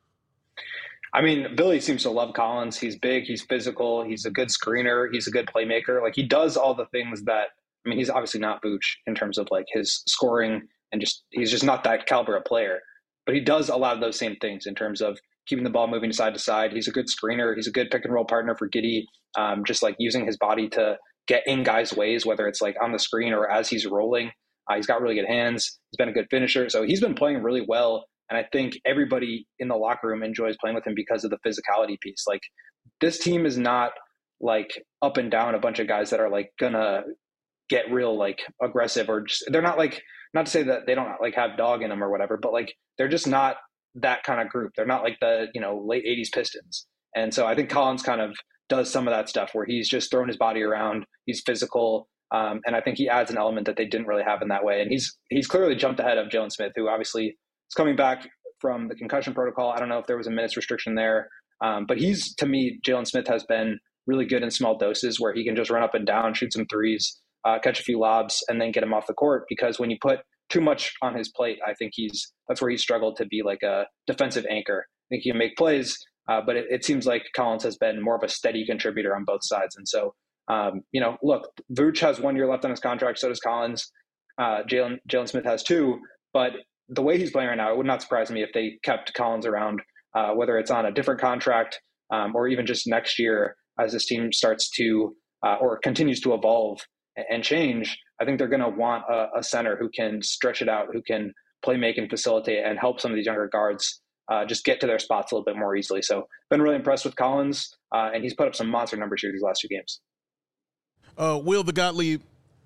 I mean, Billy seems to love Collins. He's big, he's physical, he's a good screener, he's a good playmaker. Like, he does all the things that, I mean, he's obviously not Vooch in terms of like his scoring and just, he's just not that caliber of player, but he does a lot of those same things in terms of keeping the ball moving side to side. He's a good screener. He's a good pick and roll partner for Giddey. Um, just like using his body to get in guys' ways, whether it's like on the screen or as he's rolling. Uh, he's got really good hands. He's been a good finisher. So he's been playing really well. And I think everybody in the locker room enjoys playing with him because of the physicality piece. Like, this team is not like up and down a bunch of guys that are like gonna get real like aggressive, or just, they're not like, not to say that they don't like have dog in them or whatever, but like they're just not that kind of group. They're not like the, you know, late eighties Pistons. And so I think Collins kind of does some of that stuff where he's just throwing his body around. He's physical. Um, and I think he adds an element that they didn't really have in that way. And he's, he's clearly jumped ahead of Jalen Smith, who obviously is coming back from the concussion protocol. I don't know if there was a minutes restriction there. Um, but he's, to me, Jalen Smith has been really good in small doses where he can just run up and down, shoot some threes, uh, catch a few lobs, and then get him off the court. Because when you put too much on his plate, I think he's, that's where he's struggled to be like a defensive anchor. I think he can make plays, uh, but it, it seems like Collins has been more of a steady contributor on both sides. And so, um, you know, look, Vooch has one year left on his contract. So does Collins. Uh, Jalen Jalen Smith has two. But the way he's playing right now, it would not surprise me if they kept Collins around, uh, whether it's on a different contract um, or even just next year as this team starts to uh, or continues to evolve and change. I think they're going to want a, a center who can stretch it out, who can play, make, and facilitate, and help some of these younger guards uh, just get to their spots a little bit more easily. So been really impressed with Collins, uh, and he's put up some monster numbers here these last two games. Uh, Will the Gottlieb.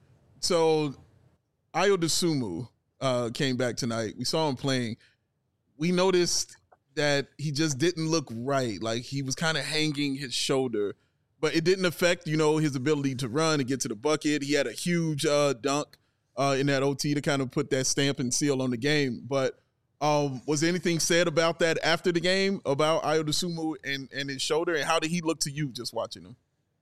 So Ayo Dosunmu uh, came back tonight. We saw him playing. We noticed that he just didn't look right. Like, he was kind of hanging his shoulder, but it didn't affect, you know, his ability to run and get to the bucket. He had a huge uh, dunk uh, in that O T to kind of put that stamp and seal on the game. But Um, was anything said about that after the game about Ayo Dosunmu and, and his shoulder, and how did he look to you just watching him?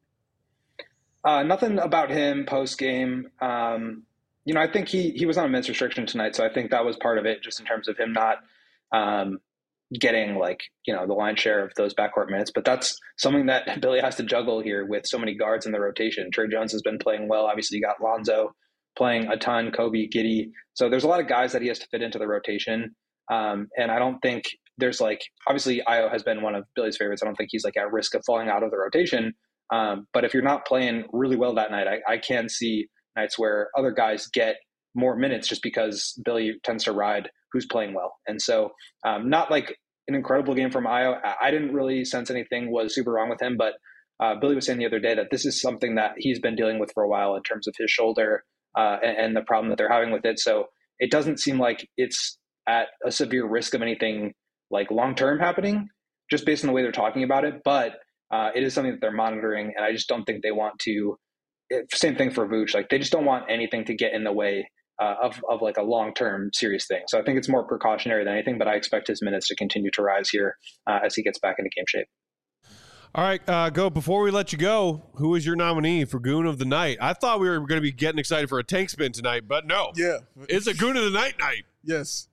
Uh, nothing about him post game. Um, you know, I think he he was on a minutes restriction tonight, so I think that was part of it, just in terms of him not um, getting like you know the lion's share of those backcourt minutes. But that's something that Billy has to juggle here with so many guards in the rotation. Trey Jones has been playing well. Obviously, you got Lonzo playing a ton, Kobe, Giddey. So there's a lot of guys that he has to fit into the rotation. Um, and I don't think there's like, obviously Ayo has been one of Billy's favorites. I don't think he's like at risk of falling out of the rotation. Um, but if you're not playing really well that night, I, I can see nights where other guys get more minutes just because Billy tends to ride who's playing well. And so um, not like an incredible game from Ayo. I, I didn't really sense anything was super wrong with him, but uh, Billy was saying the other day that this is something that he's been dealing with for a while in terms of his shoulder uh, and, and the problem that they're having with it. So it doesn't seem like it's at a severe risk of anything like long-term happening just based on the way they're talking about it. But uh, it is something that they're monitoring. And I just don't think they want to, it, same thing for Vooch. Like they just don't want anything to get in the way uh, of, of like a long-term serious thing. So I think it's more precautionary than anything, but I expect his minutes to continue to rise here uh, as he gets back into game shape. All right, uh, go. Before we let you go, who is your nominee for Goon of the Night? I thought we were going to be getting excited for a tank spin tonight, but no. Yeah. It's a Goon of the Night night. Yes.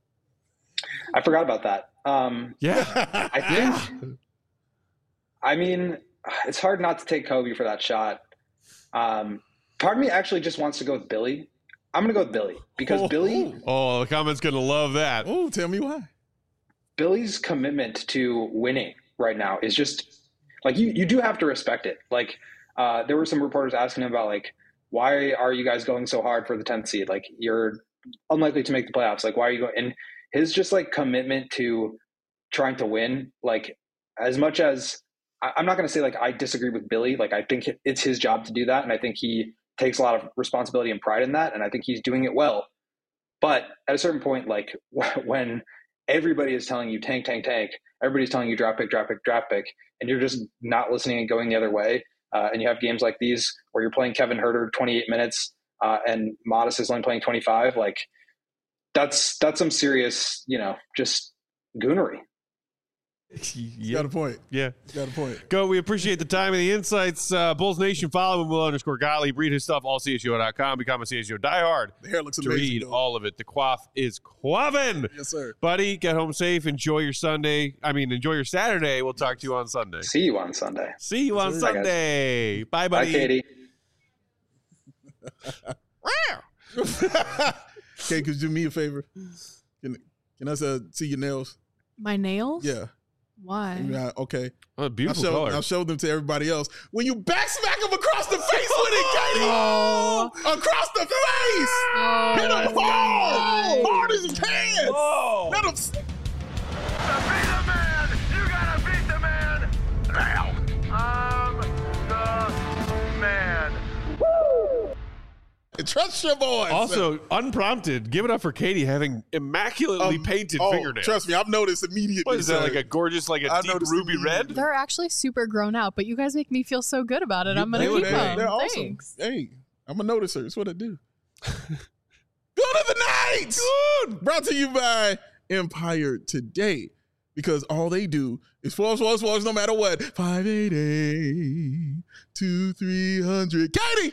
I forgot about that. Um, yeah. I think, I mean, it's hard not to take Kobe for that shot. Um, part of me actually just wants to go with Billy. I'm going to go with Billy because oh, Billy. Oh, the comment's going to love that. Oh, tell me why. Billy's commitment to winning right now is just like, you, you do have to respect it. Like uh, there were some reporters asking him about like, why are you guys going so hard for the tenth seed? Like you're unlikely to make the playoffs. Like, why are you going? And his just like commitment to trying to win, like as much as I, I'm not going to say like I disagree with Billy. Like I think it's his job to do that. And I think he takes a lot of responsibility and pride in that. And I think he's doing it well. But at a certain point, like when everybody is telling you tank, tank, tank, everybody's telling you draft pick, draft pick, draft pick, and you're just not listening and going the other way. Uh, and you have games like these where you're playing Kevin Huerter twenty-eight minutes uh, and Modest is only playing twenty-five. Like that's, that's some serious, you know, just goonery. Yeah. Got a point. Yeah. Got a point. Go. We appreciate the time and the insights. Uh, Bulls Nation, follow him, Will underscore Gottlieb. Read his stuff, all C S U dot com. Become a C S U diehard. The hair looks to amazing. read though. all of it. The quaff is quaffing. Yes, sir. Buddy, get home safe. Enjoy your Sunday. I mean, enjoy your Saturday. We'll talk to you on Sunday. See you on Sunday. See you on Bye, Sunday. guys. Bye, buddy. Bye, Katie. Okay, could you do me a favor? Can, can I uh, see your nails? My nails? Yeah. Why? Yeah, okay. Oh, beautiful I'll show, color. I'll show them to everybody else. When you back smack him across the face with it, Katie! Oh. Across the face! Oh. Hit him hard! Hard as his hands! Oh. Let him... Be the man! You gotta beat the man! Now! I'm the man. Trust your boy. Also, unprompted, give it up for Katie having immaculately Um, painted oh, fingernails. Trust me, I've noticed immediately. What is that, sir. like a gorgeous, like a I deep noticed ruby immediately. red? They're actually super grown out, but you guys make me feel so good about it. I'm going to They- keep they- them. They're awesome. Thanks. Hey, I'm a noticer. That's what I do. Good of the night! Good! Brought to you by Empire Today. Because all they do is force, force, force, no matter what. five eight eight, two three hundred. Katie!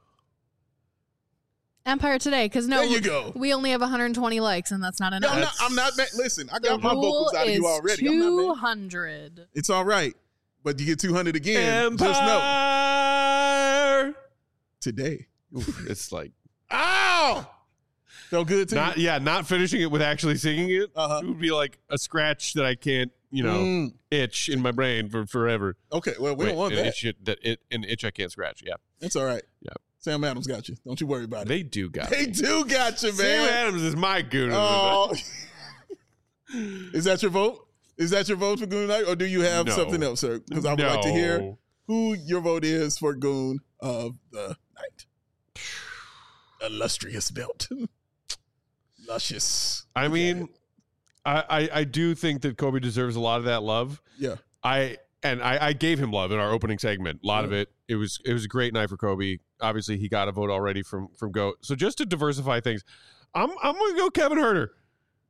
Empire Today, because no, There you go. we only have one hundred twenty likes, and that's not No, enough. I'm not, I'm not mad. Listen, I the got my rule vocals out of is you already. I'm not two mad. hundred. It's all right. But you get two hundred again. Just know. Empire. Today. It's like Ow! Felt good to not, you? yeah, not finishing it with actually singing it. Uh-huh. It would be like a scratch that I can't, you know, Mm. itch in my brain for forever. Okay, well, we Wait, don't want an that. itch that it, an itch I can't scratch. Yeah, It's all right. Yeah. Sam Adams got you. Don't you worry about it. they do got They me. do got you, Sam man. Adams is my goon. Oh. Is that your vote? Is that your vote for Goon Night, or do you have No. something else, sir? Because I would like to hear who your vote is for Goon of the Night. Illustrious belt. Luscious. I mean, I, I I do think that Kobe deserves a lot of that love. Yeah. I and I, I gave him love in our opening segment. A lot of Yeah. it. It was it was a great night for Kobe. Obviously, he got a vote already from from GOAT. So just to diversify things, I'm I'm gonna go Kevin Huerter.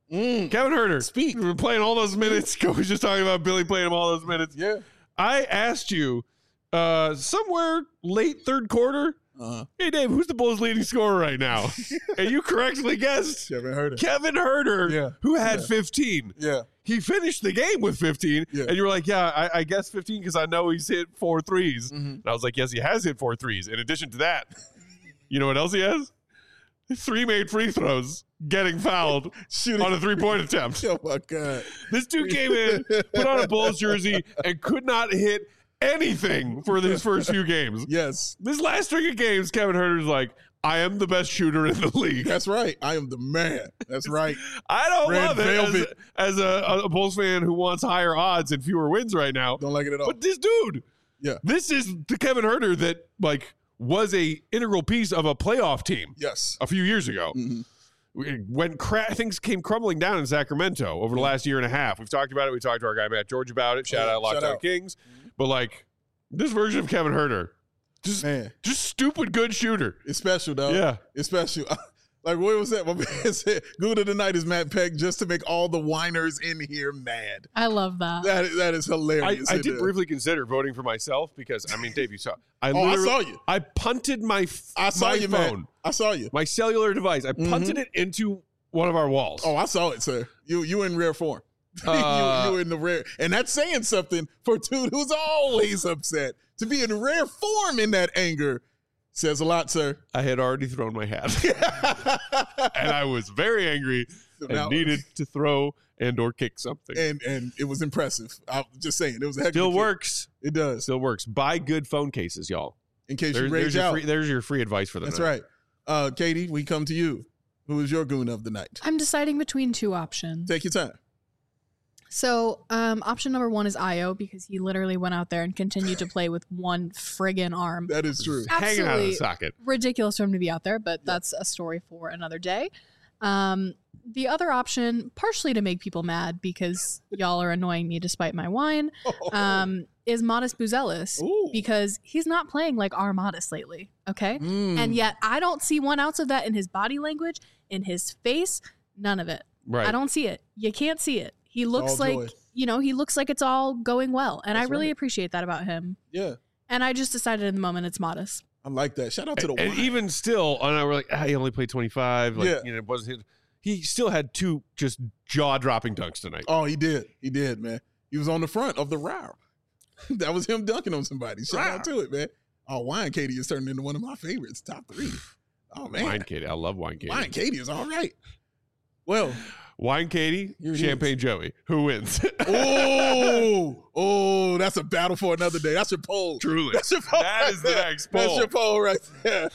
Mm. Kevin Huerter. Speak. We were playing all those minutes. Coach was just talking about Billy playing him all those minutes. Yeah. I asked you uh, somewhere late third quarter, Uh-huh. hey, Dave, who's the Bulls' leading scorer right now? And you correctly guessed Kevin Huerter. Kevin Huerter, Yeah. who had Yeah. fifteen. Yeah. He finished the game with fifteen, Yeah. and you were like, yeah, I, I guess fifteen because I know he's hit four threes. Mm-hmm. And I was like, yes, he has hit four threes. In addition to that, you know what else he has? Three made free throws, getting fouled Shooting. on a three-point attempt. Oh, my God. This dude came in, put on a Bulls jersey, and could not hit anything for his first few games. Yes. This last string of games, Kevin Huerter's like, I am the best shooter in the league. That's right. I am the man. That's right. I don't Red love it as, velvet. as a, a Bulls fan who wants higher odds and fewer wins right now. Don't like it at all. But this dude, Yeah. this is the Kevin Huerter that like was a integral piece of a playoff team Yes. a few years ago. Mhm. When cra- things came crumbling down in Sacramento over the last year and a half, we've talked about it. We talked to our guy Matt George about it. Shout Yeah, out shout Lockdown out. Kings. But like this version of Kevin Huerter, just Man, just stupid good shooter. it's special, though. Yeah. It's special. Like, what was that? My man said, good of the night is Matt Peck just to make all the whiners in here mad. I love that. That is, that is I, hilarious. I isn't did it? briefly consider voting for myself because I mean, Dave, you saw. I Oh, I literally- saw you. I punted my f- I saw my you, phone, man. I saw you. my cellular device. I punted it into one of our walls. Oh, I saw it, sir. You you in rare form. Uh, you you in the rare, and that's saying something for a dude who's always upset. To be in rare form in that anger says a lot, sir. I had already thrown my hat, and I was very angry So and now- needed to throw and or kick something. and and it was impressive. I'm just saying, it was a heck Still of a kick. works. It does. Still works. Buy good phone cases, y'all. In case There- you there's, rage your out. free, there's your free advice for the That's night. right. Uh, Katie, we come to you. Who is your goon of the night? I'm deciding between two options. Take your time. So, um, option number one is Io because he literally went out there and continued to play with one friggin' arm. That is true. Hanging out of the Absolutely socket. ridiculous for him to be out there, but that's a story for another day. Um, the other option, partially to make people mad because y'all are annoying me despite my wine, um, is Modest Buzelis Ooh. because he's not playing like our Modest lately. Okay. Mm. And yet I don't see one ounce of that in his body language, in his face, none of it. Right. I don't see it. You can't see it. He looks all like, joy. you know, he looks like it's all going well. And That's I really right. appreciate that about him. Yeah, And I just decided in the moment it's Modest. I like that. Shout out to the and wine. even still, and I were like, ah, he only played twenty-five. Like, Yeah. you know, it wasn't his. He still had two just jaw-dropping dunks tonight. Oh, he did. He did, man. He was on the front of the row. That was him dunking on somebody. Shout out to it, man. Oh, Wine Katie is turning into one of my favorites. Top three. Oh, man. Wine Katie, I love Wine Katie. Wine Katie is all right. Well, Wine Katie, Here it Champagne Joey. Who wins? oh, oh, that's a battle for another day. That's your poll. Truly. That's your poll. That right is the there. next That's poll. your poll right there.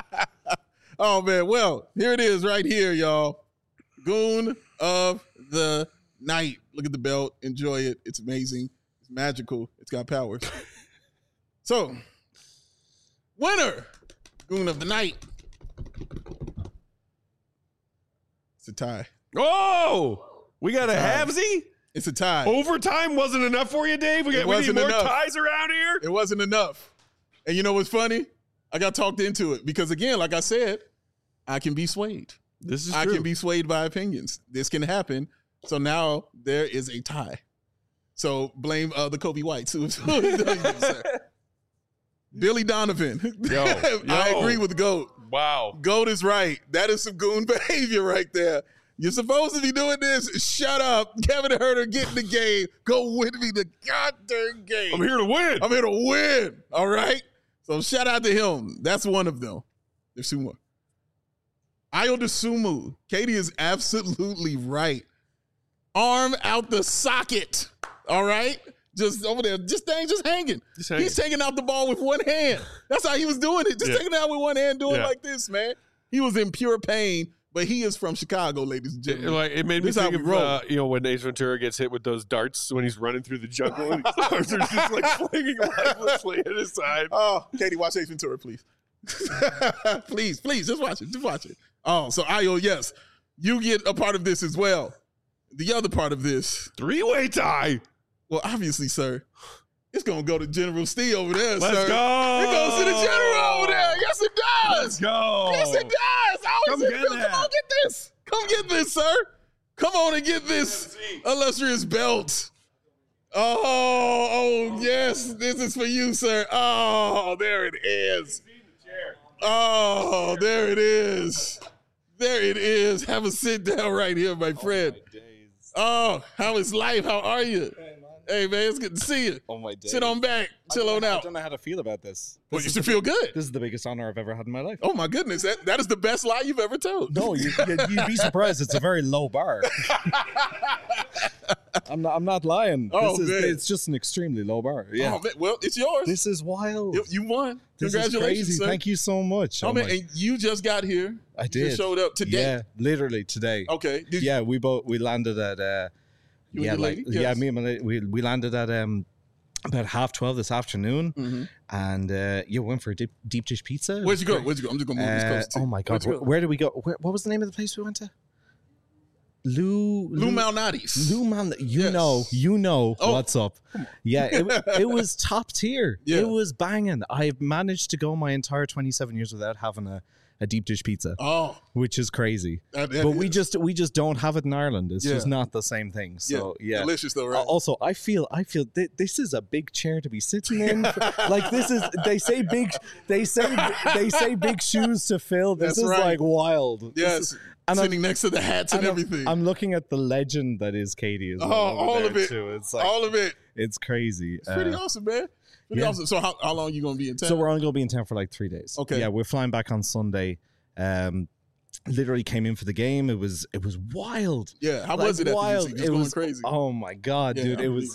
Oh, man. Well, here it is right here, y'all. Goon of the night. Look at the belt. Enjoy it. It's amazing. It's magical. It's got powers. So, winner, Goon of the night. It's a tie. Oh, we got a Time. halvesy? It's a tie. Overtime wasn't enough for you, Dave? We, It got, we need wasn't more enough. ties around here? It wasn't enough. And you know what's funny? I got talked into it because, again, like I said, I can be swayed. This is I true. can be swayed by opinions. This can happen. So now there is a tie. So blame uh, the Kobe Whites. Who, Billy Donovan. Yo, I yo. agree with GOAT. Wow. GOAT is right. That is some goon behavior right there. You're supposed to be doing this. Shut up. Kevin Huerter, get in the game. Go win me the goddamn game. I'm here to win. I'm here to win. All right. So shout out to him. That's one of them. There's two more. Ayo Dosunmu. Katie is absolutely right. Arm out the socket. All right. Just over there. Just thing just hanging. Just hanging. He's taking out the ball with one hand. That's how he was doing it. Just Yeah. taking it out with one hand, doing Yeah. like this, man. He was in pure pain, but he is from Chicago, ladies and It, gentlemen. like, it made me This is how think we of, roll. uh, you know, when Ace Ventura gets hit with those darts when he's running through the jungle and his arms are just like flinging lifelessly at his side. Oh, Katie, watch Ace Ventura, please. please, please, just watch it. Just watch it. Oh, so Ayo, yes, you get a part of this as well. The other part of this, Three-way tie. well, obviously, sir, it's gonna go to General Steve over there, Let's sir. go. It goes to the general over there. Yes, it does. Let's go. Yes, it does. How Come is it? get Come that. on, get this. Come get this, sir. Come on and get this illustrious belt. Oh, oh, yes. This is for you, sir. Oh, there it is. Oh, there it is. There it is. Have a sit down right here, my friend. Oh, how is life? How are you? Hey, man, it's good to see you. Oh, my days. Sit on back. Chill on out. I don't know how to feel about this. Well, this you should feel good. This is the biggest honor I've ever had in my life. Oh, my goodness. That, that is the best lie you've ever told. No, you, you'd be surprised. It's a very low bar. I'm not. I'm not lying. Oh, this is, man. It's just an extremely low bar. Yeah. Oh, man. Well, it's yours. This is wild. You, you won. This Congratulations, is crazy. sir. Thank you so much. Oh, Oh man, my- and you just got here. I You did. just showed up today. Yeah, literally today. Okay. Did Yeah, we both we landed at. Uh, You and yeah, your like lady? yeah, Yes. me and my lady, we we landed at um about half twelve this afternoon, Mhm. and uh, yeah, went for a deep, deep dish pizza. It Where'd was you go? great. Where'd you go? I'm just going to move this Uh, close to you. oh my god, Where'd you where, go? where did we go? Where, what was the name of the place we went to? Lou Lou Malnati's. Lou Man, you Yes. know, you know Oh. what's up. Yeah, it, it was top tier. Yeah. It was banging. I've managed to go my entire twenty-seven years without having a, a deep dish pizza, Oh. which is crazy. that- that But we is- just we just don't have it in Ireland. It's Yeah. just not the same thing. So yeah. Delicious, though, Uh, right? Also, I feel I feel th- this is a big chair to be sitting in. Like this is they say big they say they say big shoes to fill. This That's is right. like wild. This yes. is- and I'm- Sitting next to the hats and, and I'm- everything. I'm looking at the legend that is Katie as oh, well. over all there of it. Too. It's like all of it. it's crazy. It's pretty Uh, awesome, man. Pretty yeah. awesome. So how, how long you going to be in town? So we're only gonna be in town for like three days. Okay. Yeah, we're flying back on Sunday. Um, literally came in for the game. It was it was wild. yeah. How Like, was it at wild. the U C? Just it going was crazy. Oh my god, Yeah, dude! I It believe was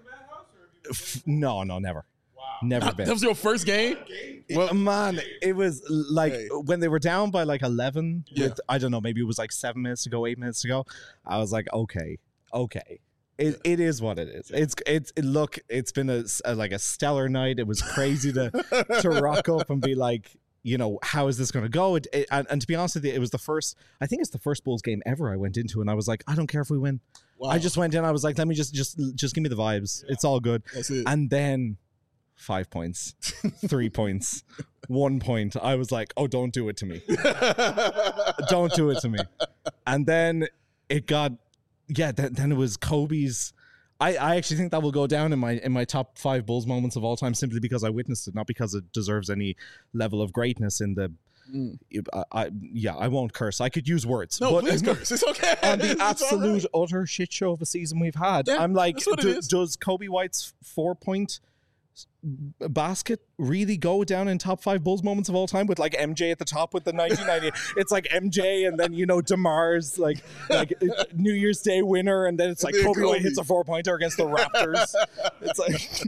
f- no, no, never, never That been. was your first game? Well, man, it was like Hey. when they were down by like eleven. Yeah. With, I don't know, maybe it was like seven minutes to go, eight minutes to go. I was like, okay, okay. It, it is what it is. It's it's it, look. It's been a, s- a- like a stellar night. It was crazy to to rock up and be like, you know, how is this going to go? It, it, and, and to be honest with you, it was the first. I think it's the first Bulls game ever I went into, and I was like, I don't care if we win. Wow. I just went in. I was like, let me just just just give me the vibes. It's all good. That's it. And then five points, three points, one point. I was like, oh, don't do it to me. Don't do it to me. And then it got, yeah, then, then it was Kobe's. I, I actually think that will go down in my in my top five Bulls moments of all time simply because I witnessed it, not because it deserves any level of greatness in the. Mm. I, I yeah, I won't curse. I could use words. No, but please curse. It's okay. on the It's all absolute right. utter shit show of a season we've had. Yeah, I'm like, that's what it do- is. does Kobe White's four point basket really go down in top five Bulls moments of all time with like M J at the top with the nineteen ninety? It's like M J and then, you know, DeMar's like like New Year's Day winner, and then it's like And then Kobe White Kobe. hits a four pointer against the Raptors. It's like.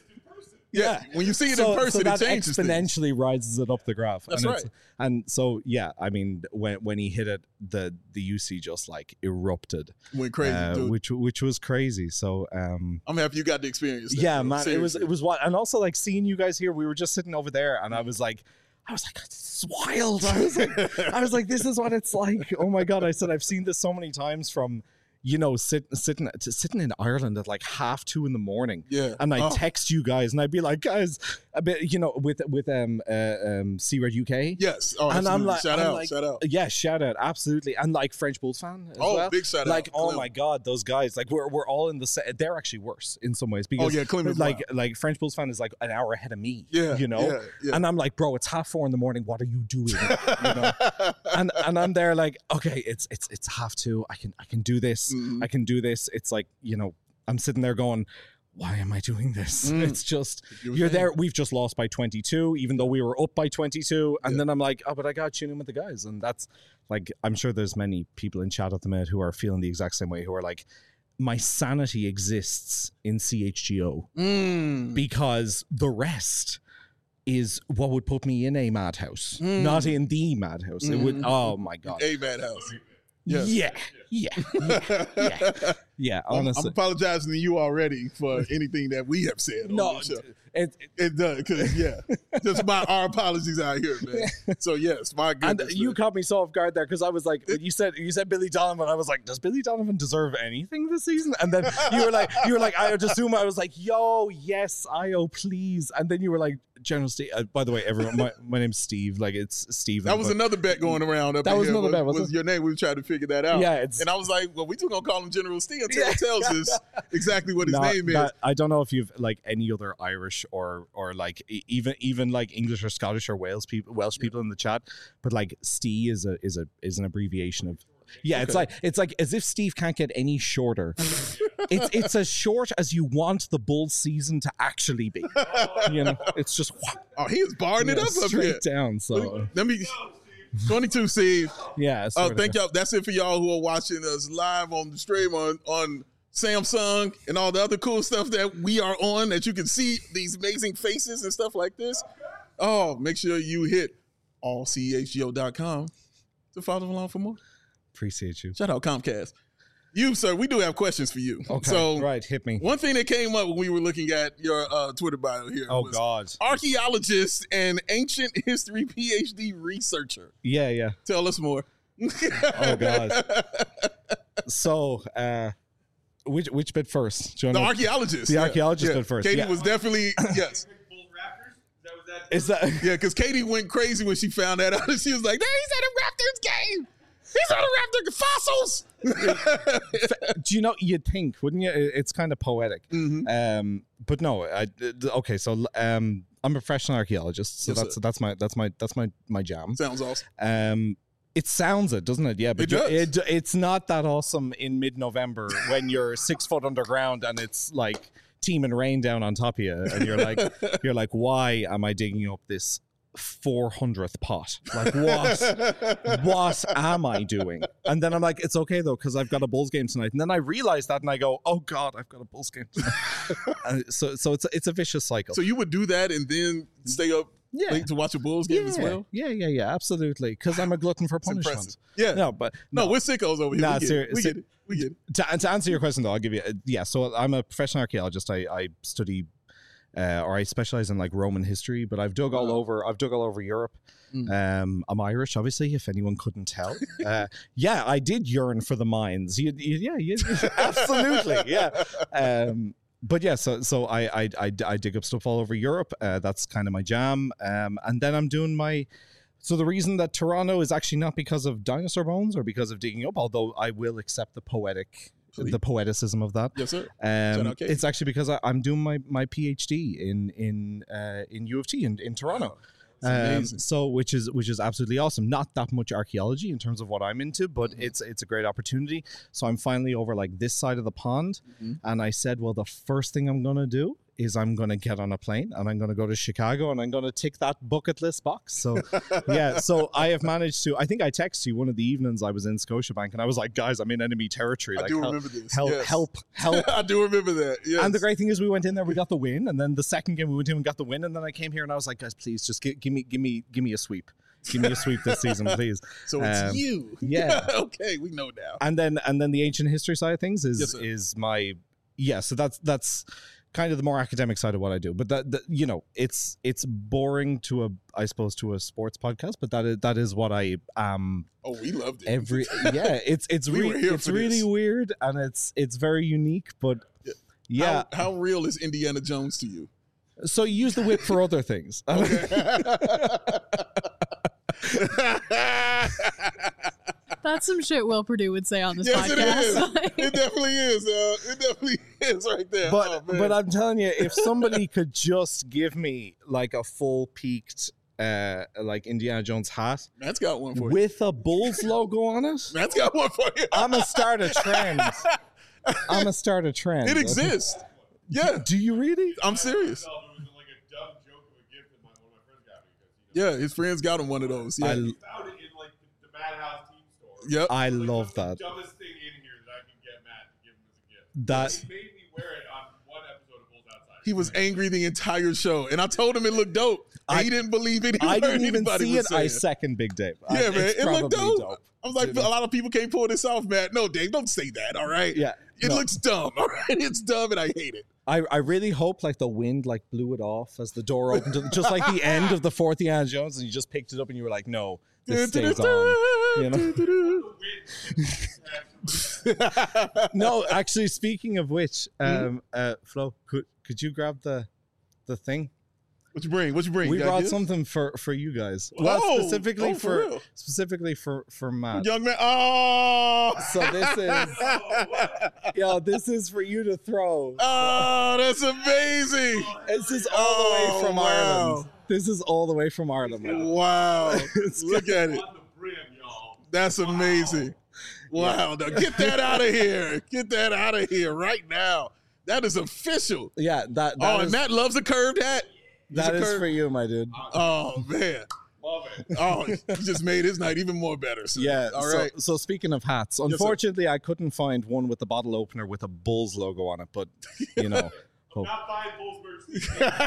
Yeah. When you see it so, in person, so that it changes things. exponentially rises it up the graph. That's and it's- right. And so yeah, I mean, when when he hit it, the the U C just like erupted, Went crazy, uh, dude. which which was crazy. So um, I'm happy you got the experience. that, yeah, bro. man, it was Seriously. it was what, and also like seeing you guys here. We were just sitting over there, and I was like. I was like, this is wild. I was like, I was like, this is what it's like. Oh my god! I said I've seen this so many times from, you know, sit, sitting sitting in Ireland at like half two in the morning. Yeah. And I'd Oh. text you guys, and I'd be like, guys, a bit, you know, with with um uh, um C-Red U K. Yes. Oh, And I'm absolutely. like, shout I'm out, like- shout out. Yeah, shout out, absolutely, and like French Bulls fan as Oh, well. big shout out. Like, oh Clem. my god, those guys, like we're we're all in the set. They're actually worse in some ways because Oh, yeah, Clem is like wild. like French Bulls fan is like an hour ahead of me. Yeah, you know. yeah, yeah. And I'm like, bro, it's half four in the morning. What are you doing? you know. And and I'm there like, okay, it's it's it's half two. I can I can do this. Mhm. I can do this. It's like, you know, I'm sitting there going, why am I doing this? Mm. It's just You were you're saying. there. We've just lost by twenty-two, even though we were up by twenty-two. And Yeah. then I'm like, oh, but I got to tune in with the guys. And that's like, I'm sure there's many people in chat at the minute who are feeling the exact same way, who are like, my sanity exists in C H G O Mm. because the rest is what would put me in a madhouse, Mm. not in the madhouse. It would, oh my God. A madhouse. Yes. Yeah, yeah, yeah, yeah, yeah, I'm, I'm honestly. apologizing to you already for anything that we have said. On no, this show. it, it, It does, because yeah, just my our apologies out here, man. So yes, my and goodness. you man. caught me so off guard there because I was like, when you said you said Billy Donovan, I was like, does Billy Donovan deserve anything this season? And then you were like, you were like, I would assume I was like, yo, yes, Io, please. And then you were like, General Steve. Uh, by the way, everyone, my, my name's Steve. Like it's Steven. That was but- another bet going around up That in was here. another bet, was, wasn't was it? your name. We were trying to figure that out. Yeah, it's- and I was like, well, we just gonna call him General Steve until Yeah. he tells us exactly what his No, name is. that- I don't know if you've like any other Irish or or like e- even even like English or Scottish or Wales people Welsh people in the chat, but like Steve is a is a is an abbreviation of. Yeah, it's Okay. like it's like as if Steve can't get any shorter. it's it's as short as you want the Bulls season to actually be. You know, it's just Oh, he is barring it yeah, up up here. straight down. So Let me. twenty-two, Steve. yeah. Oh, sort of. thank y'all. That's it for y'all who are watching us live on the stream on on Samsung and all the other cool stuff that we are on. That you can see these amazing faces and stuff like this. Oh, make sure you hit all c h g o dot com to follow along for more. Appreciate you. Shout out Comcast. You, sir, we do have questions for you. Okay, So, right, hit me. one thing that came up when we were looking at your uh, Twitter bio here Oh was God. archaeologist and ancient history P H D researcher. Yeah, yeah. Tell us more. Oh God. So, uh, which which bit first? Do you The wanna- archaeologist. The yeah. archaeologist Yeah. bit first, Katie yeah. was definitely, yes. Bulls Raptors? Is that what that Is that? Yeah, because Katie went crazy when she found that out. She was like, "There, he's at a Raptors game. He's at a Raptor fossils." Do you know? You'd think, wouldn't you? It- It's kind of poetic. Mhm. Um, but no. I, okay, so um, I'm a professional archaeologist, so Yes, that's sir. that's my that's my that's my my jam. Sounds awesome. Um, it sounds it, doesn't it? Yeah, but It you're- does. it, it's not that awesome in mid-November when you're six foot underground and it's like teeming rain down on top of you, and you're like, you're like, why am I digging up this four hundredth pot? Like, what? what am I doing? And then I'm like, it's okay though, because I've got a Bulls game tonight. And then I realize that, and I go, oh God, I've got a Bulls game tonight. And so, so it's it's a vicious cycle. So you would do that and then stay up Yeah. late to watch a Bulls game yeah, as well? yeah, yeah, yeah, absolutely. Because I'm a glutton for It's impressive. punishment. Yeah. No, but No, we're sickos over here. Nah, we, get ser- it. we ser- get it. We get it. to, to answer your question though, I'll give you uh, yeah. So I'm a professional archaeologist. I, I study uh, or I specialize in like Roman history, but I've dug all Wow. over. I've dug all over Europe. Mm. Um, I'm Irish, obviously, if anyone couldn't tell. Uh, yeah, I did yearn for the mines. You, you, yeah, you, absolutely, yeah. Um, but yeah, so so I, I I I dig up stuff all over Europe. Uh, that's kind of my jam. Um, and then I'm doing my. So the reason that Toronto is actually not because of dinosaur bones or because of digging up, although I will accept the poetic, Please. the poeticism of that. Yes, sir. Shout Um, out Casey. it's actually because I, I'm doing my, my PhD in in uh, in U of T in, in Toronto. That's Um, amazing. so which is which is absolutely awesome. Not that much archaeology in terms of what I'm into, but Mm-hmm. it's it's a great opportunity. So I'm finally over like this side of the pond, Mhm. and I said, well, the first thing I'm gonna do is I'm gonna get on a plane and I'm gonna go to Chicago and I'm gonna tick that bucket list box. So yeah, so I have managed to. I think I texted you one of the evenings I was in Scotiabank, and I was like, guys, I'm in enemy territory. I Like, do help, remember this. help, Yes. help, help. I do remember that. Yes. And the great thing is, we went in there, we got the win, and then the second game we went in and got the win, and then I came here and I was like, guys, please just give, give me, give me, give me a sweep, give me a sweep this season, please. So it's um, you. yeah. Okay, we know now. And then, and then the ancient history side of things is Yes, sir. is my yeah. So that's that's kind of the more academic side of what I do. But that, that you know, it's it's boring to a I suppose to a sports podcast, but that is that is what I am. Oh, we loved it. Every yeah, it's it's We were really here it's for really this. weird and it's it's very unique, but Yeah. yeah. How, how real is Indiana Jones to you? So you use the whip for other things. That's some shit Will Purdue would say on this Yes, it podcast. is. It definitely is. Uh, it definitely is right there. But Oh, man. but I'm telling you, if somebody could just give me like a full peaked uh like Indiana Jones hat Matt's got one for you. with a Bulls logo on it, Matt's got one for you. I'm gonna start a trend. I'm gonna start a trend. It exists. Yeah, Do you really? I'm serious. It was like a dumb joke of a gift that my, one of my friends got me because he Yeah, his friends got him one of those. Yeah. I found it in like the, the Madhouse team store. Yep. I Like, love what's the that. dumbest thing in here that I can get Matt to give him as a gift. That He made me wear it on one episode of Bulls Outside. He was angry the entire show, and I told him it looked dope. And I- he didn't believe it. I didn't even anybody see was it. I saying. second Big Dave. I- Yeah, man, it's it looked probably dope. I was like, You know? a lot of people can't pull this off, Matt. No, Dave, don't say that. All right. Yeah. It no. looks dumb. All right. It's dumb, and I hate it. I, I really hope like the wind like blew it off as the door opened, to, just like the end of the fourth Indiana Jones, and you just picked it up and you were like, no, this stays on. You know? The win. No, actually, speaking of which, Hmm? um, uh, Flo, could could you grab the the thing? What you bring? What you bring? We You got brought gifts? something for for you guys. Well, Oh, specifically oh, for for, real? specifically for for Matt. Young man. Oh. So this is yo, this is for you to throw. Oh, that's amazing. This is all Oh, the way from wow. Ireland. This is all the way from Ireland. Man. Wow. It's Look at it. That's amazing. Wow. Now get that out of here. Get that out of here right now. That is official. Yeah, that, that Oh, is, and Matt loves a curved hat. He's that a is curved- for you, my dude. Oh, man. Love it. Oh, you just made his night even more better. sir. Yeah. All so, right. so speaking of hats, sir. unfortunately, I couldn't find one with the bottle opener with a Bulls logo on it. But you know, hope- Not buying Bulls merch.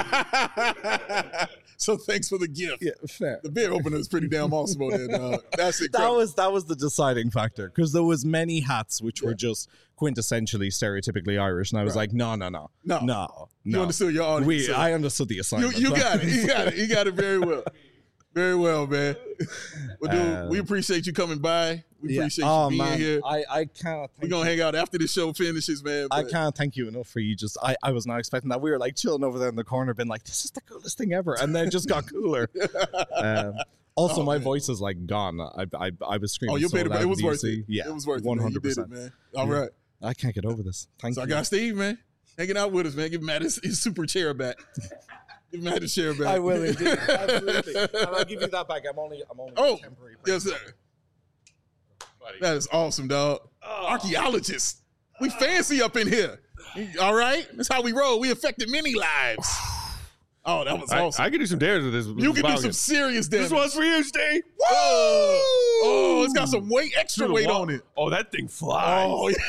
So thanks for the gift. yeah, fair. The beer opener is pretty damn awesome on there, dog. That's That incredible. was that was the deciding factor because there was many hats which were just quintessentially stereotypically Irish, and I was Right. like, no, no, no, No. no, you no. understood your audience. We, sir. I understood the you, assignment. you got it. You got it. You got it very well. Very well, man. Well, dude, Um, we appreciate you coming by. We Yeah. appreciate oh, you being man. here. I, I can't. We're going to hang out after the show finishes, man. I but- can't thank you enough for you. Just I, I was not expecting that. We were like chilling over there in the corner, been like, this is the coolest thing ever, and then it just got cooler. um, also, Oh, my man. voice is like gone. I I, I was screaming. Oh, you so paid it. loud It was in worth D C. it. Yeah, It was worth it. one man. You hundred did it, percent. man. All Yeah. right. I can't get over this. Thank So I you. got Steve, man, hanging out with us, man. Give Matt his, his super chair back. Give Matt his chair back. I will indeed. Absolutely. And I'll give you that back. I'm only I'm only Oh, temporary. yes, sir. That is awesome, dog. Oh. Archaeologists. We fancy up in here. All right? That's how we roll. We affected many lives. Oh, that was I, awesome. I can do some damage with this. you can do bottle some cap. serious damage. This one's for you, Steve. Whoa! Oh, it's got some weight, extra Through the weight wall. on it. Oh, that thing flies. Oh, yeah.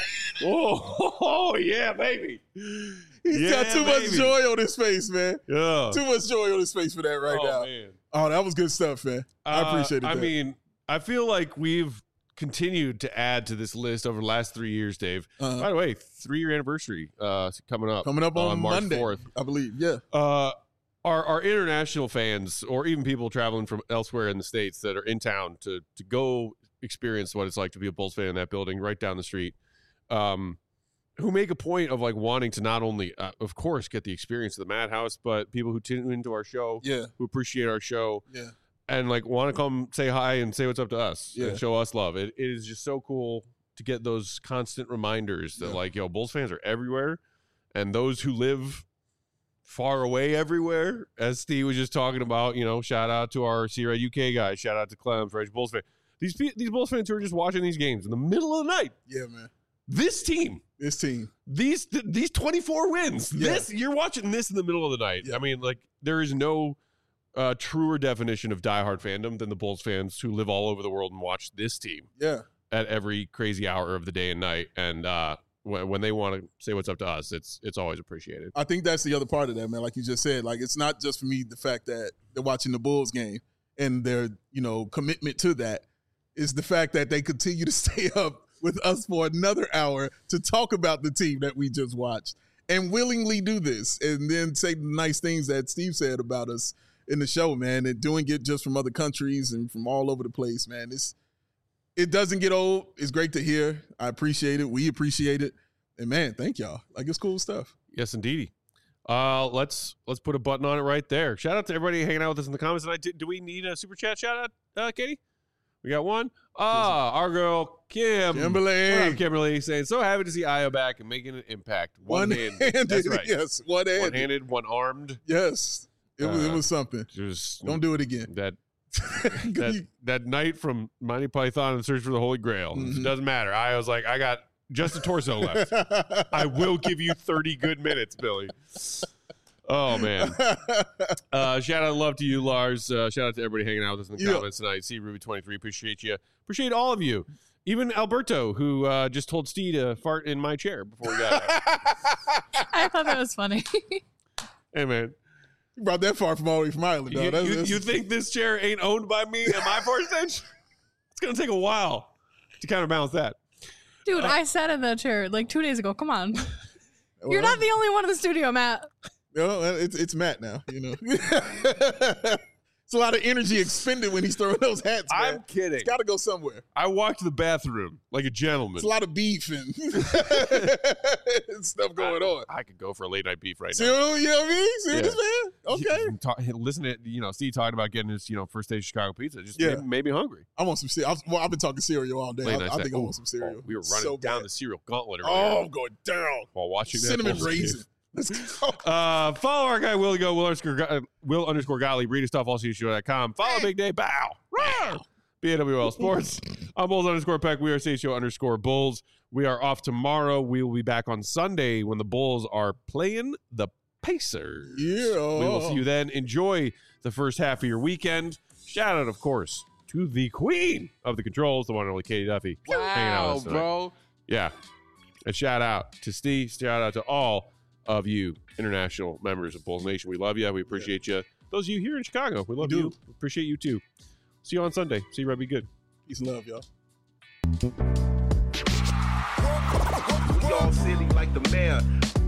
Oh, oh, yeah, baby. He's Yeah, got too much baby. joy on his face, man. Yeah. Too much joy on his face for that right oh, now. man. Oh, that was good stuff, man. I Uh, appreciate it. I man. mean, I feel like we've continued to add to this list over the last three years, Dave. Uh-huh. By the way, three-year anniversary uh, coming up. coming up on, March Monday, fourth. I believe. Yeah. Uh, our, our international fans, or even people traveling from elsewhere in the States that are in town to to go experience what it's like to be a Bulls fan in that building right down the street, um, who make a point of like wanting to not only, uh, of course, get the experience of the Madhouse, but people who tune into our show, Yeah. who appreciate our show, Yeah. and like want to come say hi and say what's up to us Yeah. and show us love. It, it is just so cool to get those constant reminders that Yeah. like, yo, Bulls fans are everywhere, and those who live far away everywhere, as Steve was just talking about, you know, shout out to our C-Red U K guys, shout out to Clem for Bulls fan. These pe- these Bulls fans who are just watching these games in the middle of the night. Yeah, man. This team, This team. these th- these twenty-four wins. Yeah. This you're watching this in the middle of the night. Yeah. I mean, like there is no uh, truer definition of diehard fandom than the Bulls fans who live all over the world and watch this team Yeah. at every crazy hour of the day and night. And uh, when, when they want to say what's up to us, it's it's always appreciated. I think that's the other part of that, man. Like you just said, like it's not just for me the fact that they're watching the Bulls game and their, you know, commitment to that. Is the fact that they continue to stay up with us for another hour to talk about the team that we just watched and willingly do this and then say the nice things that Steve said about us in the show, man, and doing it just from other countries and from all over the place, man. It's it doesn't get old. It's great to hear. I appreciate it. We appreciate it. And man, thank y'all. Like it's cool stuff. Yes, indeedy. Uh, let's let's put a button on it right there. Shout out to everybody hanging out with us in the comments tonight. Do, do we need a super chat shout out, uh, Katie? We got one. Ah, our girl Kim. Kimberly. What up, Kimberly saying so happy to see Io back and making an impact. One hand. One-handed. That's right. Yes, one-handed. One handed, one armed. Yes. It was, it Uh, was something. Just Don't do it again. that that that night from Monty Python and Search for the Holy Grail. Mhm. It doesn't matter. I was like, I got just a torso left. I will give you thirty good minutes, Billy. Oh man. Uh, shout out love to you, Lars. Uh, shout out to everybody hanging out with us in the Yeah. comments tonight. See Ruby twenty-three. Appreciate you. Appreciate all of you. Even Alberto, who uh, just told Steve to fart in my chair before we got out. I thought that was funny. Hey man. You brought that far from all the way from Ireland, You, dog. That's- you, that's- you think this chair ain't owned by me and my fart stench? It's gonna take a while to counterbalance that. Dude, I sat in that chair like two days ago. Come on. Well, You're not the only one in the studio, Matt. No, it's it's Matt now. You know. It's a lot of energy expended when he's throwing those hats, man. I'm kidding. It's got to go somewhere. I walked to the bathroom like a gentleman. It's a lot of beef and stuff going I, on. I could go for a late night beef right See, now. you know what I mean? See Yeah. this, man? Okay. Talk, listen to you know Steve talking about getting his you know first stage Chicago pizza. Just Yeah. made, made me hungry. I want some cereal. Well, I've been talking cereal all day. Late I, night I snack. think I Ooh, want some cereal. oh, we were running So down bad. the cereal gauntlet earlier Oh, I'm going down. while watching that Cinnamon Bulls game. raisin. Let's go. Uh, follow our guy Will Go Will underscore uh, Will underscore Golly. Read his stuff all C H G O dot com. Follow Big Day Bow. Bow. B A W L Sports. I'm Bulls underscore Peck. We are C H O underscore Bulls. We are off tomorrow. We will be back on Sunday when the Bulls are playing the Pacers. Yeah. We will see you then. Enjoy the first half of your weekend. Shout out, of course, to the queen of the controls, the one and only Katie Duffy. hanging out with us tonight. bro. Yeah. And shout out to Steve. Shout out to all of you international members of Bulls Nation. We love you. We appreciate you. Those of you here in Chicago, we love We you. do. We appreciate you too. See you on Sunday. See you, Red. Be good. Peace and love, y'all. We all silly like the mayor.